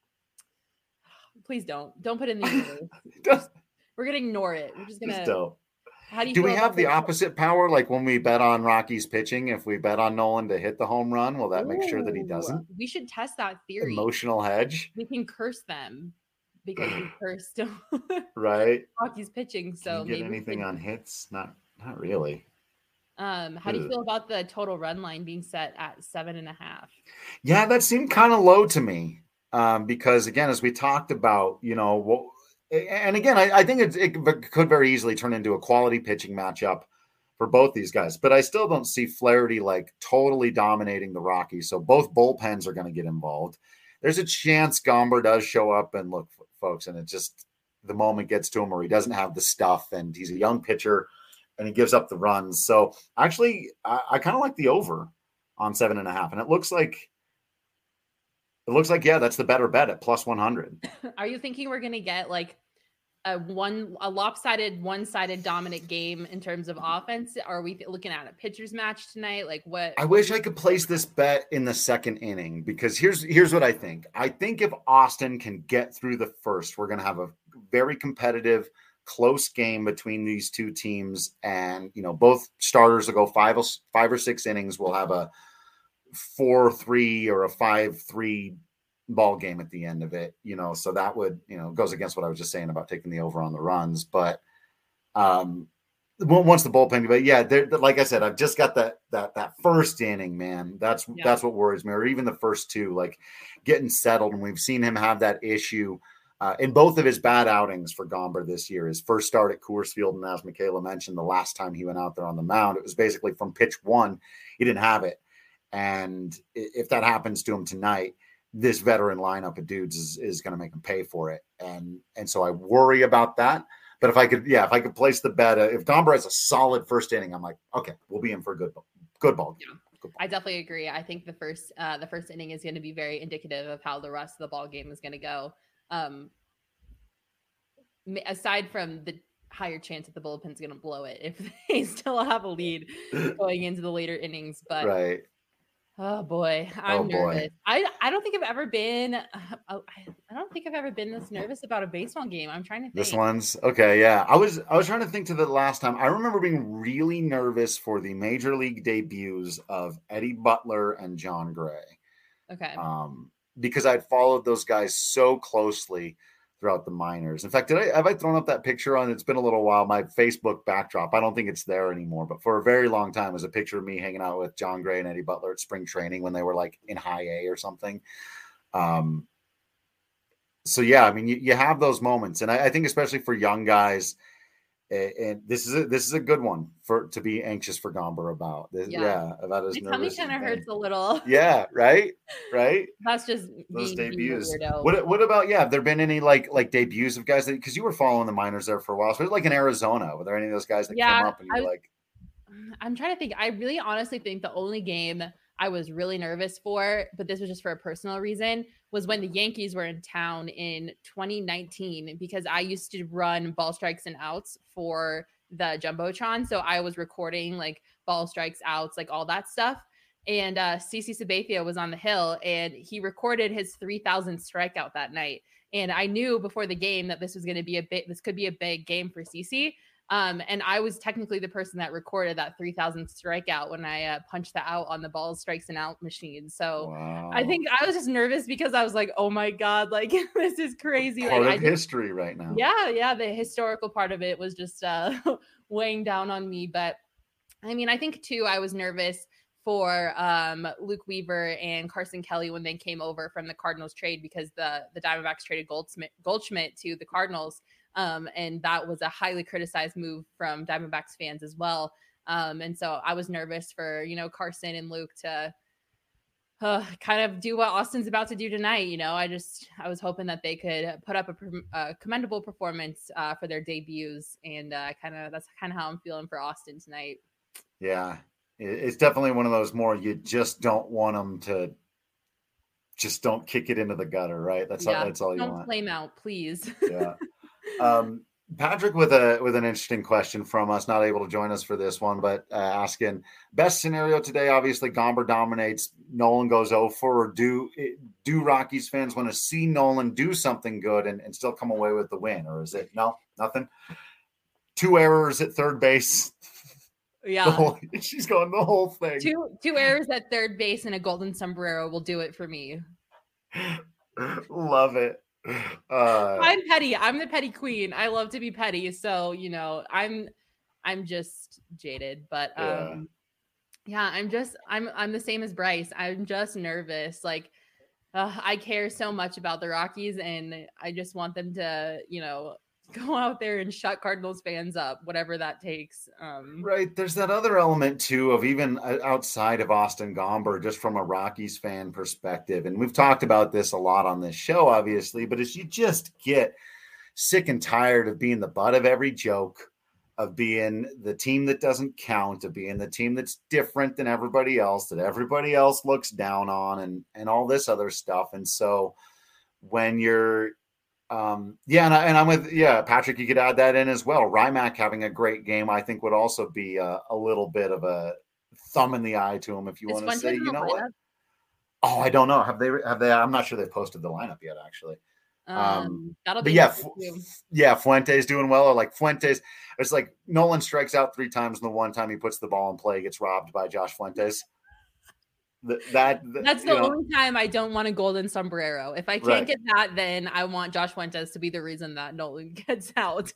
Please don't. Don't put in the We're going to ignore it. We're just going to. How do you do we have the opposite power? Like when we bet on Rockies pitching, if we bet on Nolan to hit the home run, will that Ooh, make sure that he doesn't? We should test that theory. Emotional hedge. We can curse them because we cursed right. Rockies pitching. So can you get maybe anything could... on hits? Not, not really. Um, how do you feel about the total run line being set at seven and a half? Yeah, that seemed kind of low to me. Um, because again, as we talked about, you know, what. And again, I, I think it, it could very easily turn into a quality pitching matchup for both these guys. But I still don't see Flaherty like totally dominating the Rockies. So both bullpens are going to get involved. There's a chance Gomber does show up and look, folks, and it just the moment gets to him where he doesn't have the stuff and he's a young pitcher and he gives up the runs. So actually, I, I kind of like the over on seven and a half. And it looks like It looks like, yeah, that's the better bet at plus one hundred. Are you thinking we're going to get like a one, a lopsided, one-sided dominant game in terms of offense? Are we looking at a pitcher's match tonight? Like what? I wish I could place this bet in the second inning because here's, here's what I think. I think if Austin can get through the first, we're going to have a very competitive, close game between these two teams. And, you know, both starters will go five, five or six innings. We'll have a four three or a five three ball game at the end of it, you know, so that would, you know, goes against what I was just saying about taking the over on the runs. But um, once the bullpen, but yeah, like I said, I've just got that that that first inning, man. That's yeah. that's what worries me, or even the first two, like getting settled. And we've seen him have that issue uh, in both of his bad outings for Gomber this year. His first start at Coors Field, and as Michaela mentioned, the last time he went out there on the mound, it was basically from pitch one, he didn't have it. And if that happens to him tonight, this veteran lineup of dudes is, is going to make him pay for it. And and so I worry about that. But if I could, yeah, if I could place the bet, uh, if Gomber has a solid first inning, I'm like, okay, we'll be in for a good, good ball game. Yeah. Good ball. I definitely agree. I think the first, uh, the first inning is going to be very indicative of how the rest of the ball game is going to go. Um, aside from the higher chance that the bullpen's going to blow it if they still have a lead going into the later innings, but right. Oh boy, I'm oh, boy. nervous. I I don't think I've ever been. Uh, I don't think I've ever been this nervous about a baseball game. I'm trying to think. This one's okay. Yeah, I was I was trying to think to the last time. I remember being really nervous for the major league debuts of Eddie Butler and John Gray. Okay. Um, because I'd followed those guys so closely throughout the minors. In fact, did I have I thrown up that picture on? It's been a little while. My Facebook backdrop. I don't think it's there anymore, but for a very long time, it was a picture of me hanging out with John Gray and Eddie Butler at spring training when they were like in high A or something. Um. So yeah, I mean, you, you have those moments, and I, I think especially for young guys, and, and this is a, this is a good one for to be anxious for Gomber about. This, yeah. yeah, about his My tummy kind of hurts a little. Yeah, right, right. That's just those being, debuts. Being what what about yeah? Have there been any like like debuts of guys that because you were following the minors there for a while, so like in Arizona, were there any of those guys that yeah, came up and you were like? I'm trying to think. I really honestly think the only game I was really nervous for, but this was just for a personal reason, was when the Yankees were in town in twenty nineteen, because I used to run ball strikes and outs for the Jumbotron. So I was recording like ball strikes, outs, like all that stuff. And uh, CeCe Sabathia was on the hill and he recorded his three thousandth strikeout that night. And I knew before the game that this was going to be a bit, this could be a big game for CeCe. Um, and I was technically the person that recorded that three thousandth strikeout when I uh, punched that out on the ball strikes and out machine. So wow. I think I was just nervous because I was like, oh my God, like this is crazy. Part like, of I history just, right now. Yeah. Yeah. The historical part of it was just uh, weighing down on me. But I mean, I think too, I was nervous for um, Luke Weaver and Carson Kelly when they came over from the Cardinals trade, because the, the Diamondbacks traded Goldschmidt, Goldschmidt to the Cardinals. Um, and that was a highly criticized move from Diamondbacks fans as well. Um, and so I was nervous for, you know, Carson and Luke to uh, kind of do what Austin's about to do tonight. You know, I just, I was hoping that they could put up a, a commendable performance uh, for their debuts. And uh, kind of, that's kind of how I'm feeling for Austin tonight. Yeah, it's definitely one of those more, you just don't want them to just don't kick it into the gutter, right? That's yeah, all, that's all you don't want. Don't flame out, please. Yeah. Um, Patrick with a with an interesting question from us, not able to join us for this one, but uh, asking best scenario today. Obviously, Gomber dominates. Nolan goes oh for. Or do do Rockies fans want to see Nolan do something good and, and still come away with the win, or is it no nothing? Two errors at third base. Yeah, the whole, she's going the whole thing. Two two errors at third base and a golden sombrero will do it for me. Love it. Uh, I'm petty. I'm the petty queen. I love to be petty. So, you know, I'm, I'm just jaded, but, um, yeah, yeah I'm just, I'm, I'm the same as Bryce. I'm just nervous. Like, uh, I care so much about the Rockies and I just want them to, you know, go out there and shut Cardinals fans up, whatever that takes. Um, right. There's that other element too of even outside of Austin Gomber, just from a Rockies fan perspective. And we've talked about this a lot on this show, obviously, but as you just get sick and tired of being the butt of every joke, of being the team that doesn't count, of being the team that's different than everybody else, that everybody else looks down on, and, and all this other stuff. And so when you're, Um, yeah, and, I, and I'm with, yeah, Patrick, you could add that in as well. Rymack having a great game, I think, would also be a, a little bit of a thumb in the eye to him if you want to say, you know what? Oh, I don't know. Have they, have they, I'm not sure they've posted the lineup yet, actually. Um, um that'll but be yeah, Fu- yeah, Fuente's doing well. Or like Fuentes, it's like Nolan strikes out three times, and the one time he puts the ball in play gets robbed by Josh Fuentes. Th- that, th- That's the you know, only time I don't want a golden sombrero. If I can't Right. get that, then I want Josh Fuentes to be the reason that Nolan gets out.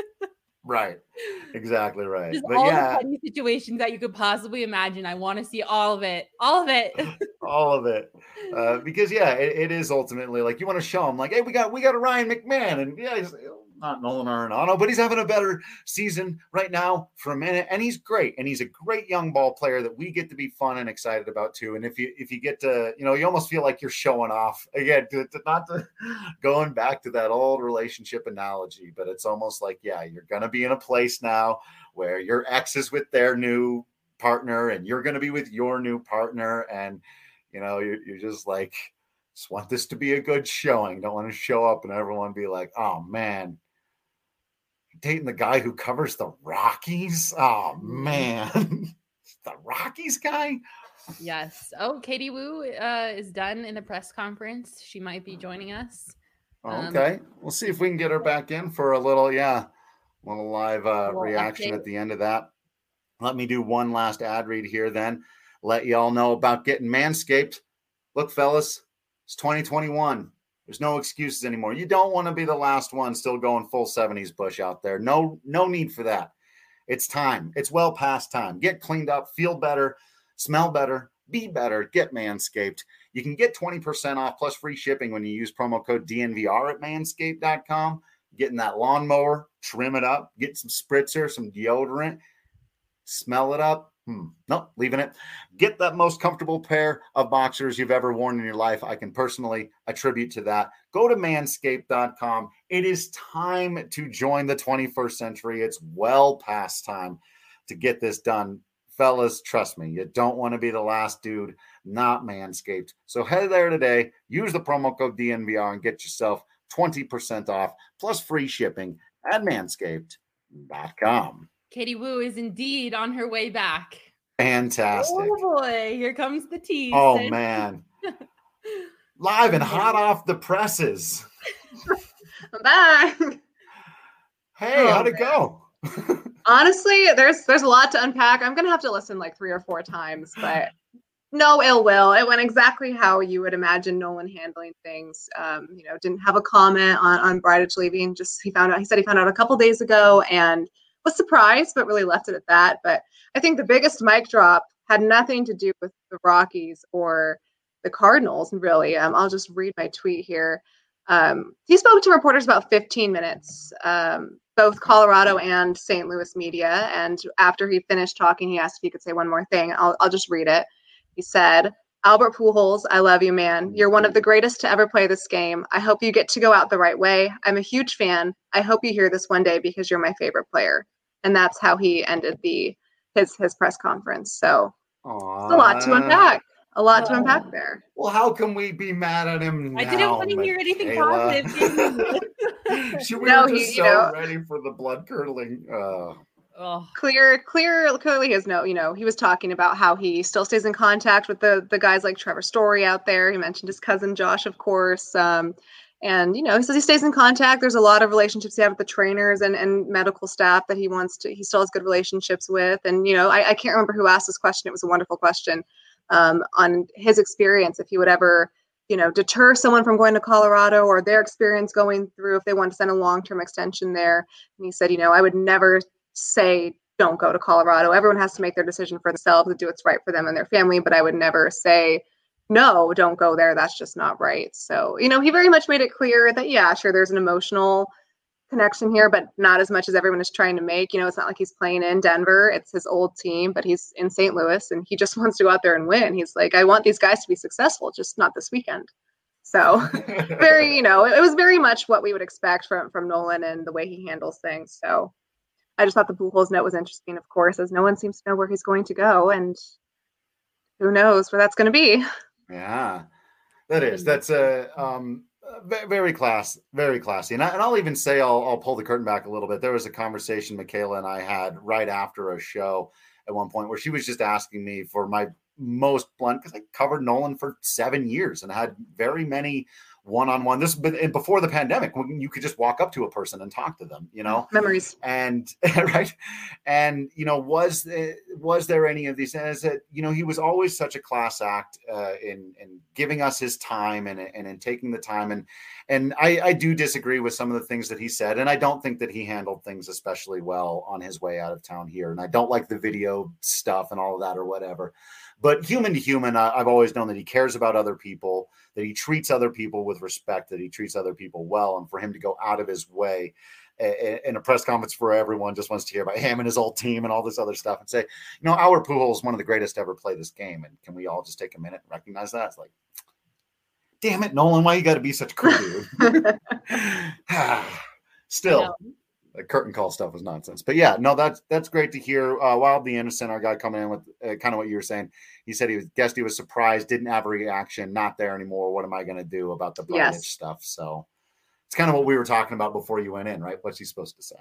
right. Exactly right. Just But all yeah, the petty situations that you could possibly imagine. I want to see all of it. All of it. all of it. Uh, because yeah, it, it is ultimately like you want to show him like, hey, we got we got a Ryan McMahon, and yeah, he's not Nolan Arenado, but he's having a better season right now for a minute, and he's great, and he's a great young ball player that we get to be fun and excited about too. And if you if you get to, you know, you almost feel like you're showing off again, to, to not to going back to that old relationship analogy, but it's almost like, yeah, you're gonna be in a place now where your ex is with their new partner, and you're gonna be with your new partner, and you know, you're, you're just like, just want this to be a good showing. Don't want to show up and everyone be like, oh man, dating the guy who covers the Rockies. Oh man, the Rockies guy. Yes. Oh, Katie Wu uh, is done in the press conference. She might be joining us. Um, okay, we'll see if we can get her back in for a little, yeah, little live uh, little reaction update at the end of that. Let me do one last ad read here, then let y'all know about getting Manscaped. Look, fellas, it's twenty twenty-one. There's no excuses anymore. You don't want to be the last one still going full seventies bush out there. No, no need for that. It's time. It's well past time. Get cleaned up, feel better, smell better, be better. Get Manscaped. You can get twenty percent off plus free shipping when you use promo code D N V R at manscaped dot com. Getting that lawnmower, trim it up, get some spritzer, some deodorant, smell it up. Hmm. Nope, leaving it. Get that most comfortable pair of boxers you've ever worn in your life. I can personally attribute to that. Go to manscaped dot com. It is time to join the twenty-first century. It's well past time to get this done. Fellas, trust me, you don't want to be the last dude not Manscaped. So head there today, use the promo code D N V R and get yourself twenty percent off plus free shipping at manscaped dot com. Katie Wu is indeed on her way back. Fantastic. Oh boy, here comes the tease. Oh man. Live and hot off the presses. I'm back. Hey, oh, how'd it man. go? Honestly, there's there's a lot to unpack. I'm gonna have to listen like three or four times, but no ill will. It went exactly how you would imagine Nolan handling things. Um, you know, didn't have a comment on on Bridich leaving. Just he found out. He said he found out a couple days ago and was surprised, but really left it at that. But I think the biggest mic drop had nothing to do with the Rockies or the Cardinals, really. Um, I'll just read my tweet here. Um, he spoke to reporters about fifteen minutes, um, both Colorado and Saint Louis media. And after he finished talking, he asked if he could say one more thing. I'll, I'll just read it. He said, Albert Pujols, I love you, man. You're one of the greatest to ever play this game. I hope you get to go out the right way. I'm a huge fan. I hope you hear this one day because you're my favorite player. And that's how he ended the his his press conference. So Aww. It's a lot to unpack. A lot oh. to unpack there. Well, how can we be mad at him now, I didn't want to hear anything Michaela? positive. She, we no, were just he, so you know, ready for the blood curdling. Uh, oh. Clear, clear, clearly his note. You know, he was talking about how he still stays in contact with the the guys like Trevor Story out there. He mentioned his cousin Josh, of course. Um, and you know, he says he stays in contact. There's a lot of relationships he had with the trainers and, and medical staff that he wants to. He still has good relationships with. And you know, I, I can't remember who asked this question. It was a wonderful question um, on his experience. If he would ever, you know, deter someone from going to Colorado or their experience going through if they want to send a long-term extension there. And he said, you know, I would never say don't go to Colorado. Everyone has to make their decision for themselves and do what's right for them and their family, but I would never say no, don't go there. That's just not right. So, you know, he very much made it clear that, yeah, sure, there's an emotional connection here, but not as much as everyone is trying to make. You know, it's not like he's playing in Denver. It's his old team, but he's in Saint Louis and he just wants to go out there and win. He's like, I want these guys to be successful, just not this weekend. So very, you know, it, it was very much what we would expect from, from Nolan and the way he handles things. So I just thought the Pujols note was interesting, of course, as no one seems to know where he's going to go. And who knows where that's going to be. Yeah, that is. That's a um, very class, very classy. And, I, and I'll even say, I'll, I'll pull the curtain back a little bit. There was a conversation Michaela and I had right after a show at one point where she was just asking me for my most blunt, because I covered Nolan for seven years and had very many one-on-one. This and before the pandemic, when you could just walk up to a person and talk to them, you know, memories. And right. And, you know, was, was there any of these, as that, you know, he was always such a class act uh, in, in giving us his time and, and in taking the time. And, and I, I do disagree with some of the things that he said. And I don't think that he handled things especially well on his way out of town here. And I don't like the video stuff and all of that or whatever. But human to human, I've always known that he cares about other people, that he treats other people with respect, that he treats other people well. And for him to go out of his way in a press conference for everyone just wants to hear about him and his old team and all this other stuff and say, you know, our Pujols is one of the greatest to ever play this game. And can we all just take a minute and recognize that? It's like, damn it, Nolan, why you got to be such a cool dude? Still. The curtain call stuff was nonsense, but yeah, no, that's, that's great to hear. Uh, Wild the Innocent, our guy coming in with uh, kind of what you were saying. He said he was guessed he was surprised, didn't have a reaction, not there anymore. What am I going to do about the Bridich yes. stuff? So it's kind of what we were talking about before you went in, right? What's he supposed to say?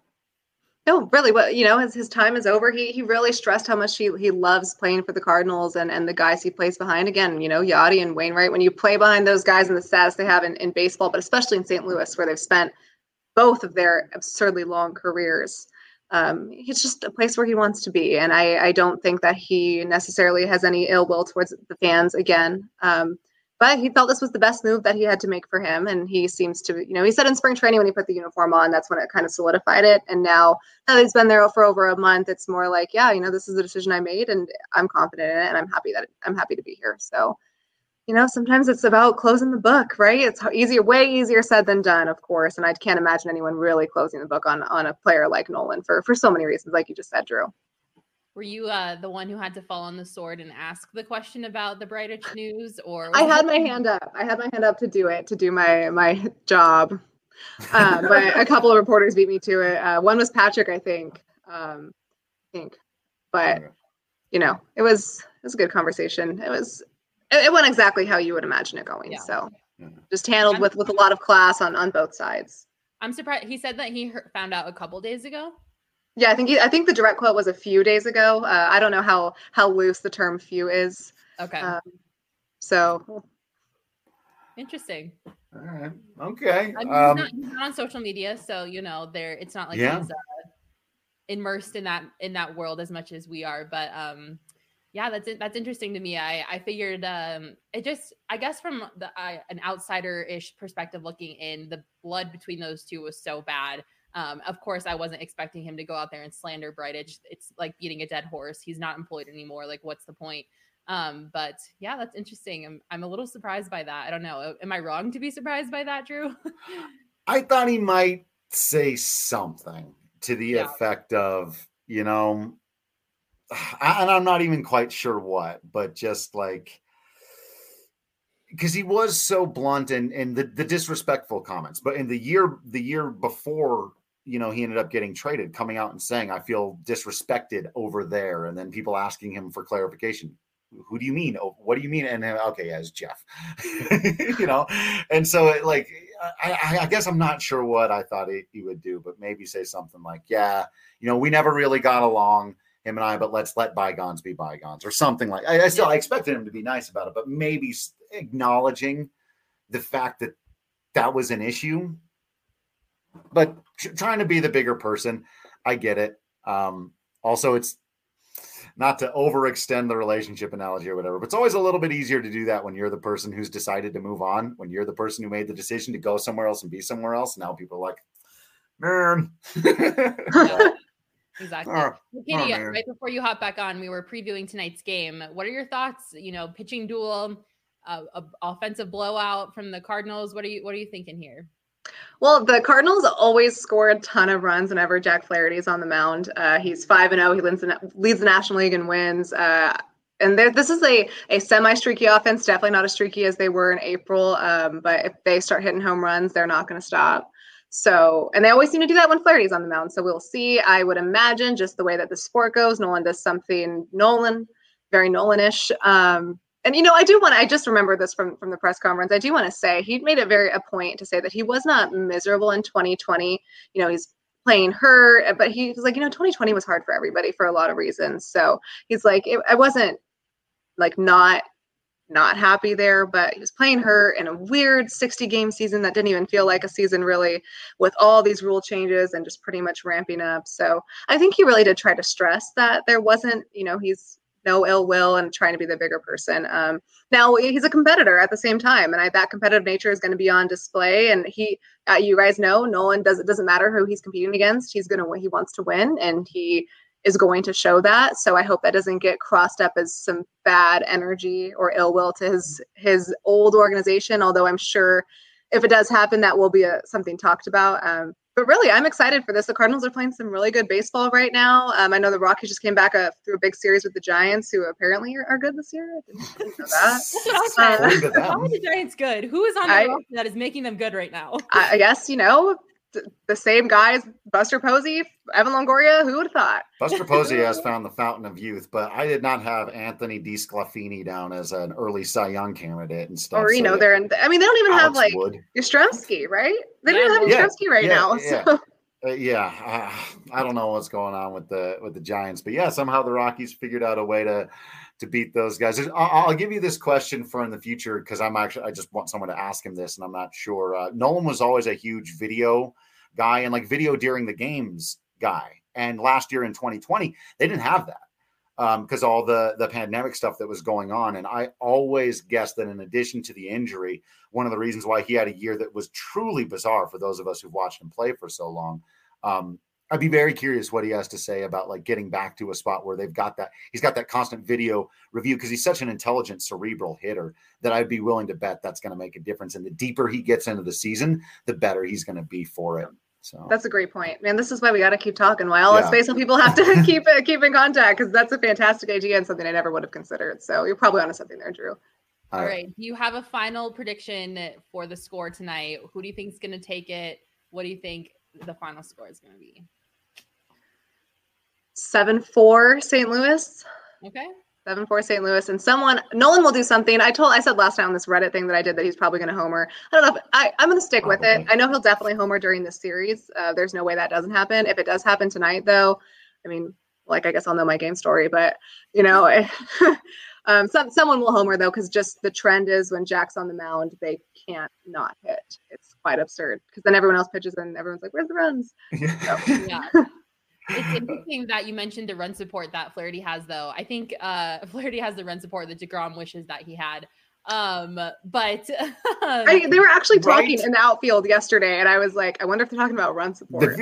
No, really, what, you know, his, his time is over. He, he really stressed how much he, he loves playing for the Cardinals and, and the guys he plays behind. Again, you know, Yachty and Wainwright, when you play behind those guys and the status they have in, in baseball, but especially in Saint Louis, where they've spent both of their absurdly long careers. Um, it's just a place where he wants to be. And I, I don't think that he necessarily has any ill will towards the fans again. Um, but he felt this was the best move that he had to make for him. And he seems to, you know, he said in spring training when he put the uniform on, that's when it kind of solidified it. And now, now that he's been there for over a month, it's more like, yeah, you know, this is the decision I made and I'm confident in it. And I'm happy that I'm happy to be here. So, you know, sometimes it's about closing the book, right? It's easier, way easier said than done, of course. And I can't imagine anyone really closing the book on, on a player like Nolan for, for so many reasons, like you just said, Drew. Were you uh, the one who had to fall on the sword and ask the question about the Bridich news? Or I had my hand up. I had my hand up to do it, to do my my job. Uh, but a couple of reporters beat me to it. Uh, one was Patrick, I think. Um, I think. But, you know, it was it was a good conversation. It was it went exactly how you would imagine it going. Yeah. So just handled with, with a lot of class on, on both sides. I'm surprised. He said that he heard, found out a couple days ago. Yeah, I think he, I think the direct quote was a few days ago. Uh, I don't know how how loose the term "few" is. Okay. Um, so interesting. All right. Okay. I mean, um, he's, not, he's not on social media, so you know, there. It's not like yeah. he's uh, immersed in that in that world as much as we are. But um, yeah, that's that's interesting to me. I I figured um, it just I guess from the uh, an outsider-ish perspective looking in, the blood between those two was so bad. Um, of course, I wasn't expecting him to go out there and slander Bridich. It's like beating a dead horse. He's not employed anymore. Like, what's the point? Um, but yeah, that's interesting. I'm I'm a little surprised by that. I don't know. Am I wrong to be surprised by that, Drew? I thought he might say something to the yeah. effect of, you know, I, and I'm not even quite sure what, but just like, because he was so blunt and and the, the disrespectful comments. But in the year the year before, you know, he ended up getting traded, coming out and saying, I feel disrespected over there. And then people asking him for clarification. Who do you mean? Oh, what do you mean? And then, okay, yeah, it's Jeff, you know? And so it, like, I, I guess I'm not sure what I thought he, he would do, but maybe say something like, yeah, you know, we never really got along, him and I, but let's let bygones be bygones or something like I, I still, I expected him to be nice about it, but maybe acknowledging the fact that that was an issue, but trying to be the bigger person. I get it. Um, also, it's not to overextend the relationship analogy or whatever, but it's always a little bit easier to do that when you're the person who's decided to move on, when you're the person who made the decision to go somewhere else and be somewhere else. Now people are like, man. Yeah, exactly. Oh, Katie, oh, right before you hop back on, we were previewing tonight's game. What are your thoughts? You know, pitching duel, uh, a offensive blowout from the Cardinals. What are you, what are you thinking here? Well, the Cardinals always score a ton of runs whenever Jack Flaherty is on the mound. Uh, he's five and zero. He leads the, leads the National League in wins. Uh, and there, this is a a semi-streaky offense. Definitely not as streaky as they were in April. Um, but if they start hitting home runs, they're not going to stop. So, and they always seem to do that when Flaherty's on the mound. So we'll see. I would imagine just the way that the sport goes, Nolan does something Nolan, very Nolan-ish. Um, And, you know, I do want to, I just remember this from, from the press conference. I do want to say he made it very a point to say that he was not miserable in twenty twenty. You know, he's playing hurt, but he was like, you know, twenty twenty was hard for everybody for a lot of reasons. So he's like, it, I wasn't like not not happy there, but he was playing hurt in a weird sixty game season that didn't even feel like a season really, with all these rule changes and just pretty much ramping up. So I think he really did try to stress that there wasn't, you know, he's no ill will and trying to be the bigger person. Um, now he's a competitor at the same time, and I, that competitive nature is going to be on display. And he, uh, you guys know, Nolan does it doesn't matter who he's competing against. He's going to win. He wants to win, and he is going to show that. So I hope that doesn't get crossed up as some bad energy or ill will to his his old organization. Although I'm sure if it does happen, that will be a, something talked about. Um, But really, I'm excited for this. The Cardinals are playing some really good baseball right now. Um, I know the Rockies just came back uh, through a big series with the Giants, who apparently are, are good this year. I didn't, didn't know that. That's what I was saying. Uh, How are the Giants good? Who is on the I- roster that is making them good right now? I, I guess, you know, th- the same guys, Buster Posey, Evan Longoria, who would have thought? Buster Posey has found the fountain of youth, but I did not have Anthony DeSclafani down as an early Cy Young candidate and stuff. Or, you so know, yeah, they're in, I mean, they don't even have Alex like Wood. Yastrzemski, right? They don't Yeah, even have yeah, Yastrzemski right yeah, now. yeah. So. Uh, yeah, uh, I don't know what's going on with the with the Giants, but yeah, somehow the Rockies figured out a way to to beat those guys. I'll, I'll give you this question for in the future because I'm actually I just want someone to ask him this, and I'm not sure. Uh, Nolan was always a huge video guy and like video during the games guy, and last year in twenty twenty they didn't have that because um, all the the pandemic stuff that was going on, and I always guessed that in addition to the injury, one of the reasons why he had a year that was truly bizarre for those of us who've watched him play for so long. Um, I'd be very curious what he has to say about like getting back to a spot where they've got that. He's got that constant video review because he's such an intelligent, cerebral hitter that I'd be willing to bet that's going to make a difference. And the deeper he gets into the season, the better he's going to be for it. So That's a great point, man. This is why we got to keep talking. Why all us Yeah. baseball people have to keep it, keep in contact, because that's a fantastic idea and something I never would have considered. So you're probably onto something there, Drew. All right. Do you have a final prediction for the score tonight? Who do you think is going to take it? What do you think the final score is going to be? seven four Saint Louis. Okay. seven four Saint Louis. And someone, Nolan will do something. I told, I said last time on this Reddit thing that I did that he's probably going to homer. I don't know. If, I, I'm going to stick with it. Probably. I know he'll definitely homer during this series. Uh, there's no way that doesn't happen. If it does happen tonight, though, I mean, like, I guess I'll know my game story, but, you know, um, some, someone will homer, though, because just the trend is when Jack's on the mound, they can't not hit. It's quite absurd because then everyone else pitches and everyone's like, where's the runs? So, Yeah. It's interesting that you mentioned the run support that Flaherty has, though. I think uh, Flaherty has the run support that DeGrom wishes that he had. Um, but I, they were actually talking Right. in the outfield yesterday, and I was like, I wonder if they're talking about run support.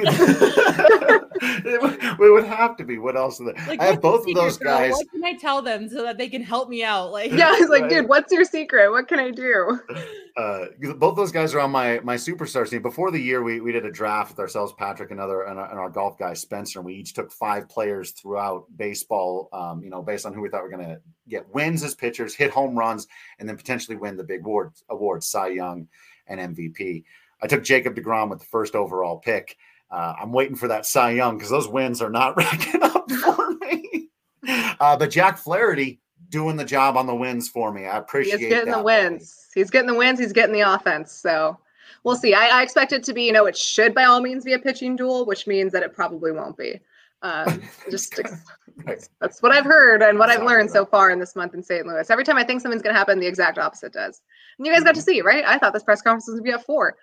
it, would, it would have to be. What else? Are they? like, I have what's the both of secret, those girl? guys. What can I tell them so that they can help me out? Like, Yeah, I was like, Right. dude, what's your secret? What can I do? Uh, both those guys are on my my superstar team. Before the year, we we did a draft with ourselves, Patrick, and other and our, and our golf guy Spencer, and we each took five players throughout baseball. Um, you know, based on who we thought were going to get wins as pitchers, hit home runs, and then potentially win the big award awards, Cy Young and M V P. I took Jacob deGrom with the first overall pick. Uh, I'm waiting for that Cy Young because those wins are not racking up for me. Uh, but Jack Flaherty doing the job on the wins for me. I He appreciate is getting that, the wins. He's getting the wins. He's getting the offense. So we'll see. I, I expect it to be, you know, it should by all means be a pitching duel, which means that it probably won't be. Um, just Right. that's what I've heard and what I've Exactly learned so right. far in this month in Saint Louis. Every time I think something's going to happen, the exact opposite does. And you guys got to see, right? I thought this press conference was going to be at four.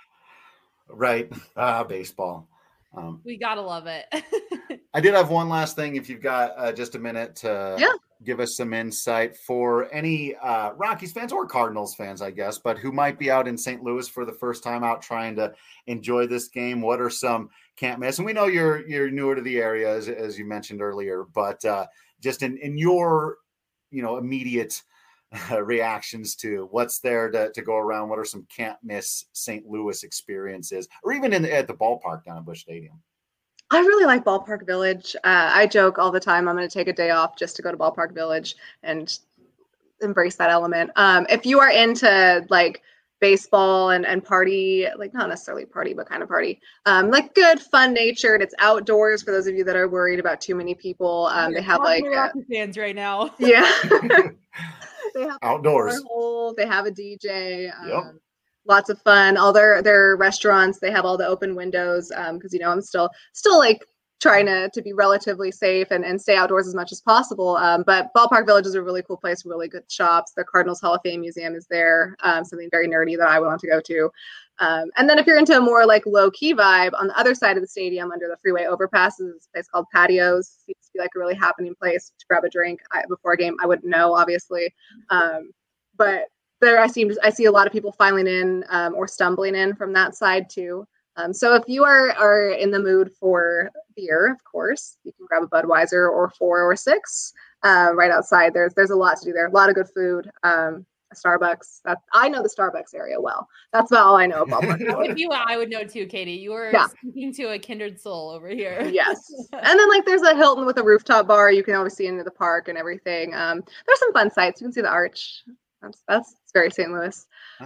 Right. Ah, baseball. Um, we gotta love it. I did have one last thing. If you've got uh, just a minute to Yeah. give us some insight for any uh, Rockies fans or Cardinals fans, I guess, but who might be out in Saint Louis for the first time out trying to enjoy this game. What are some can't miss? And we know you're you're newer to the area, as, as you mentioned earlier, but uh, just in, in your you know immediate uh, reactions to what's there to, to go around. What are some can't miss Saint Louis experiences, or even in at the ballpark down at Busch Stadium? I really like Ballpark Village. Uh, I joke all the time I'm going to take a day off just to go to Ballpark Village and embrace that element. Um, if you are into like baseball and, and party, like not necessarily party, but kind of party, um, like good, fun natured. It's outdoors for those of you that are worried about too many people. Um, they have like, uh, Rocky fans right now. yeah, they have Outdoors. cornhole, they have a D J. Um, Yep. Lots of fun. All their their restaurants, they have all the open windows. Um, because you know I'm still still like trying to, to be relatively safe and, and stay outdoors as much as possible. Um, but Ballpark Village is a really cool place, really good shops. The Cardinals Hall of Fame Museum is there, um, something very nerdy that I want to go to. Um, and then if you're into a more like low key vibe, on the other side of the stadium under the freeway overpass is a place called Patios. It seems to be like a really happening place to grab a drink I, before a game. I wouldn't know, obviously. Um, but there I seem I see a lot of people filing in um, or stumbling in from that side too. Um, so if you are, are in the mood for beer, of course, you can grab a Budweiser or four or six uh, right outside. There's there's a lot to do there. A lot of good food. Um, a Starbucks. That, I know the Starbucks area well. That's about all I know about Ballpark. If you, I would know too, Katie. You were yeah. speaking to a kindred soul over here. Yes. And then like there's a Hilton with a rooftop bar. You can always see into the park and everything. Um, there's some fun sights. You can see the Arch. That's that's very Saint Louis.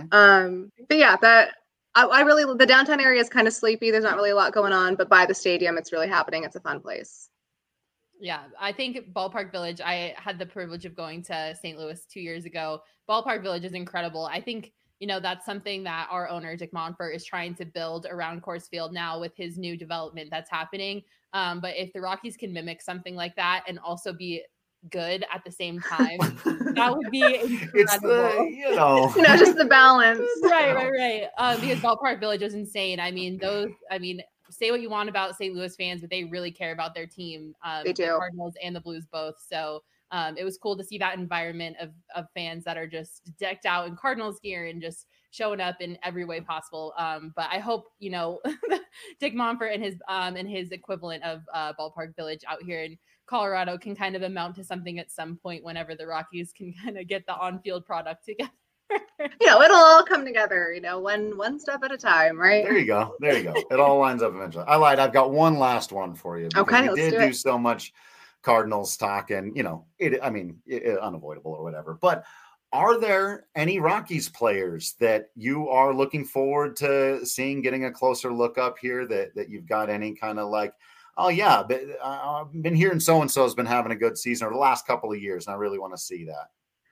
Um, but yeah, that. I, I really, the downtown area is kind of sleepy. There's not really a lot going on, but by the stadium, it's really happening. It's a fun place. Yeah, I think Ballpark Village, I had the privilege of going to Saint Louis two years ago. Ballpark Village is incredible. I think, you know, that's something that our owner, Dick Monfort, is trying to build around Coors Field now with his new development that's happening. Um, but if the Rockies can mimic something like that and also be good at the same time, that would be incredible. It's the, you know, you know, just the balance. right, right, right. Um, because Ballpark Village is insane. I mean, those. I mean, say what you want about Saint Louis fans, but they really care about their team. Um, they do. The Cardinals and the Blues both. So um, it was cool to see that environment of of fans that are just decked out in Cardinals gear and just showing up in every way possible. Um, but I hope, you know, Dick Monfort and his um and his equivalent of uh, Ballpark Village out here in Colorado can kind of amount to something at some point whenever the Rockies can kind of get the on-field product together. You know, it'll all come together, you know, one one step at a time, right? There you go. There you go. It all lines up eventually. I lied. I've got one last one for you. Okay, we let's did do, do it. so much Cardinals talk and, you know, it, I mean, it, it, unavoidable or whatever. But are there any Rockies players that you are looking forward to seeing, getting a closer look up here that, that you've got any kind of like, oh, yeah, but uh, I've been hearing so-and-so has been having a good season or the last couple of years, and I really want to see that.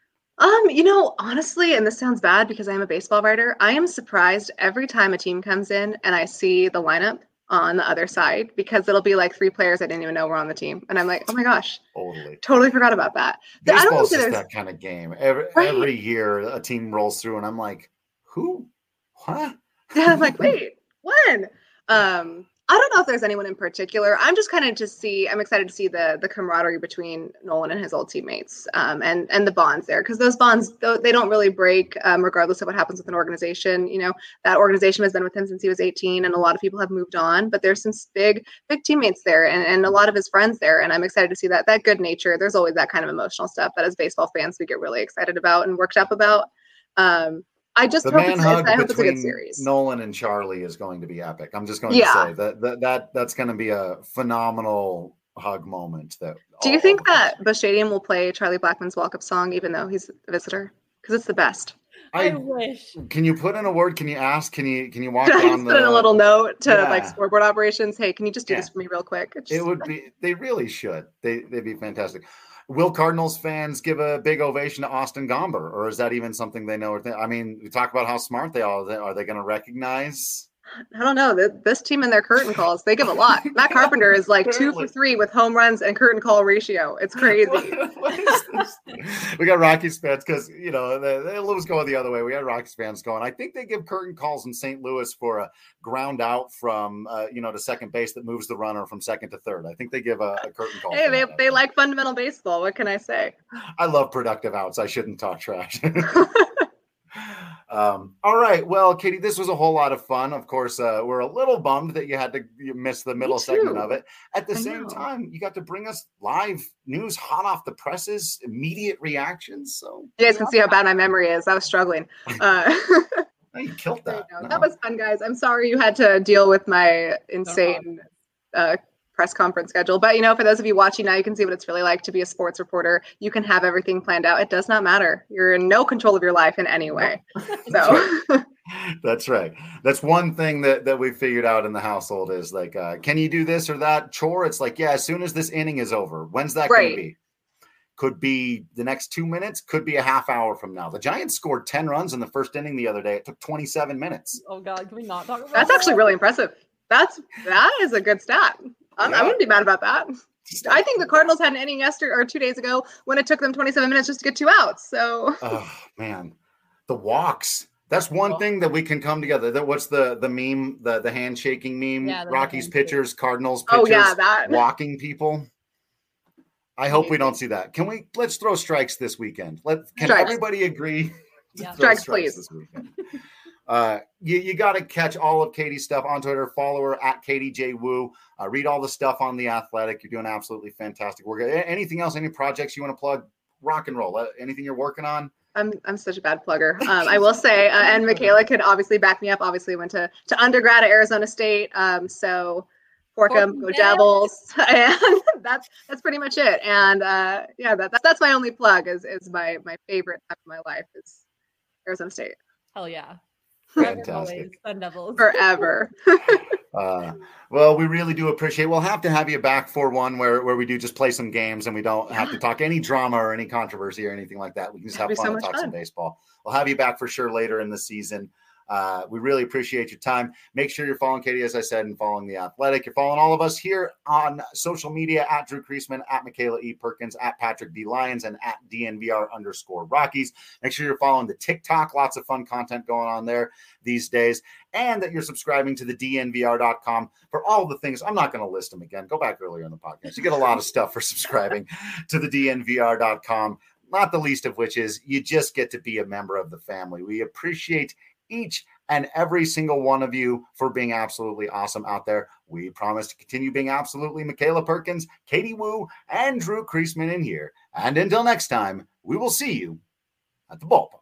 Um, you know, honestly, and this sounds bad because I'm a baseball writer, I am surprised every time a team comes in and I see the lineup on the other side, because it'll be like three players I didn't even know were on the team. And I'm like, oh my gosh, totally, totally forgot about that. Baseball's just that kind of game. Every, right. every year a team rolls through and I'm like, who? What? Yeah, I'm like, wait, when? Um, I don't know if there's anyone in particular. I'm just kind of to see, I'm excited to see the the camaraderie between Nolan and his old teammates, um, and, and the bonds there. Because those bonds, they don't really break um, regardless of what happens with an organization. You know, that organization has been with him since he was eighteen, and a lot of people have moved on. But there's some big, big teammates there, and, and a lot of his friends there. And I'm excited to see that, that good nature. There's always that kind of emotional stuff that as baseball fans, we get really excited about and worked up about. Um, I just the hope, man it's, hug I hope it's a good between series. Nolan and Charlie is going to be epic. I'm just going yeah. to say that, that that that's going to be a phenomenal hug moment. That do you think that Busch Stadium will play Charlie Blackmon's walk-up song even though he's a visitor? Because it's the best. I, I wish. Can you put in a word? Can you ask? Can you can you walk Can I down just the? Put in a little note to yeah. like scoreboard operations. Hey, can you just do yeah. this for me real quick? Just, it would be. They really should. They they'd be fantastic. Will Cardinals fans give a big ovation to Austin Gomber, or is that even something they know? Or th- I mean, we talk about how smart they are. Are they going to recognize? I don't know. This team and their curtain calls, they give a lot. Matt Carpenter is like two for three with home runs and curtain call ratio. It's crazy. What, what is this? We got Rockies fans because, you know, they, they lose going the other way. We got Rockies fans going, I think they give curtain calls in Saint Louis for a ground out from, uh, you know, to second base that moves the runner from second to third. I think they give a, a curtain call. Hey, they, that, they like fundamental baseball. What can I say? I love productive outs. I shouldn't talk trash. Um, all right. Well, Katie, this was a whole lot of fun. Of course, uh, we're a little bummed that you had to you miss the middle segment of it. At the I same know. time, you got to bring us live news, hot off the presses, immediate reactions. So you guys can see how bad my memory is. I was struggling. Uh, oh, you killed that. No. That was fun, guys. I'm sorry you had to deal with my insane uh, press conference schedule. But, you know, for those of you watching now, you can see what it's really like to be a sports reporter. You can have everything planned out. It does not matter. You're in no control of your life in any way. So that's right. That's one thing that, that we figured out in the household is like, uh, can you do this or that chore? It's like, yeah, as soon as this inning is over, when's that right. going to be? Could be the next two minutes, could be a half hour from now. The Giants scored ten runs in the first inning the other day. It took twenty-seven minutes. Oh God, can we not talk about That's that? actually really impressive. That's, that is a good stat. Um, yeah. I wouldn't be mad about that. I think the Cardinals had an inning yesterday or two days ago when it took them twenty-seven minutes just to get two outs. So, oh man, the walks. That's one oh. thing that we can come together. That what's the the meme, the the handshaking meme? Yeah, Rockies pitchers, Cardinals pitchers, oh, yeah, that. walking people. I hope we don't see that. Can we? Let's throw strikes this weekend. Let can strikes. everybody agree? Yeah. Strikes, strikes, please. This weekend. uh, you you got to catch all of Katie's stuff on Twitter. Follow her at Katie J Woo. Uh, read all the stuff on The Athletic. You're doing absolutely fantastic work. Anything else? Any projects you want to plug? Rock and roll. Uh, anything you're working on? I'm I'm such a bad plugger. Um, I will say, uh, and Michaela could obviously back me up. Obviously, went to to undergrad at Arizona State. Um, so Forkham, go Devils, and that's that's pretty much it. And uh, yeah, that, that's that's my only plug. Is is my my favorite time of my life is Arizona State. Hell yeah! Fantastic. Sun Devils forever. uh, well, we really do appreciate. We'll have to have you back for one where, where we do just play some games and we don't yeah. have to talk any drama or any controversy or anything like that. We can just That'd have fun so and talk fun. some baseball. We'll have you back for sure later in the season. Uh, we really appreciate your time. Make sure you're following Katie, as I said, and following The Athletic. You're following all of us here on social media at Drew Creasman, at Michaela E. Perkins, at Patrick D. Lyons, and at D N V R underscore Rockies. Make sure you're following the TikTok. Lots of fun content going on there these days. And that you're subscribing to the D N V R dot com for all the things. I'm not going to list them again. Go back earlier in the podcast. You get a lot of stuff for subscribing to the D N V R dot com, not the least of which is you just get to be a member of the family. We appreciate each and every single one of you for being absolutely awesome out there. We promise to continue being absolutely Michaela Perkins, Katie Woo, and Drew Creasman in here. And until next time, we will see you at the ballpark.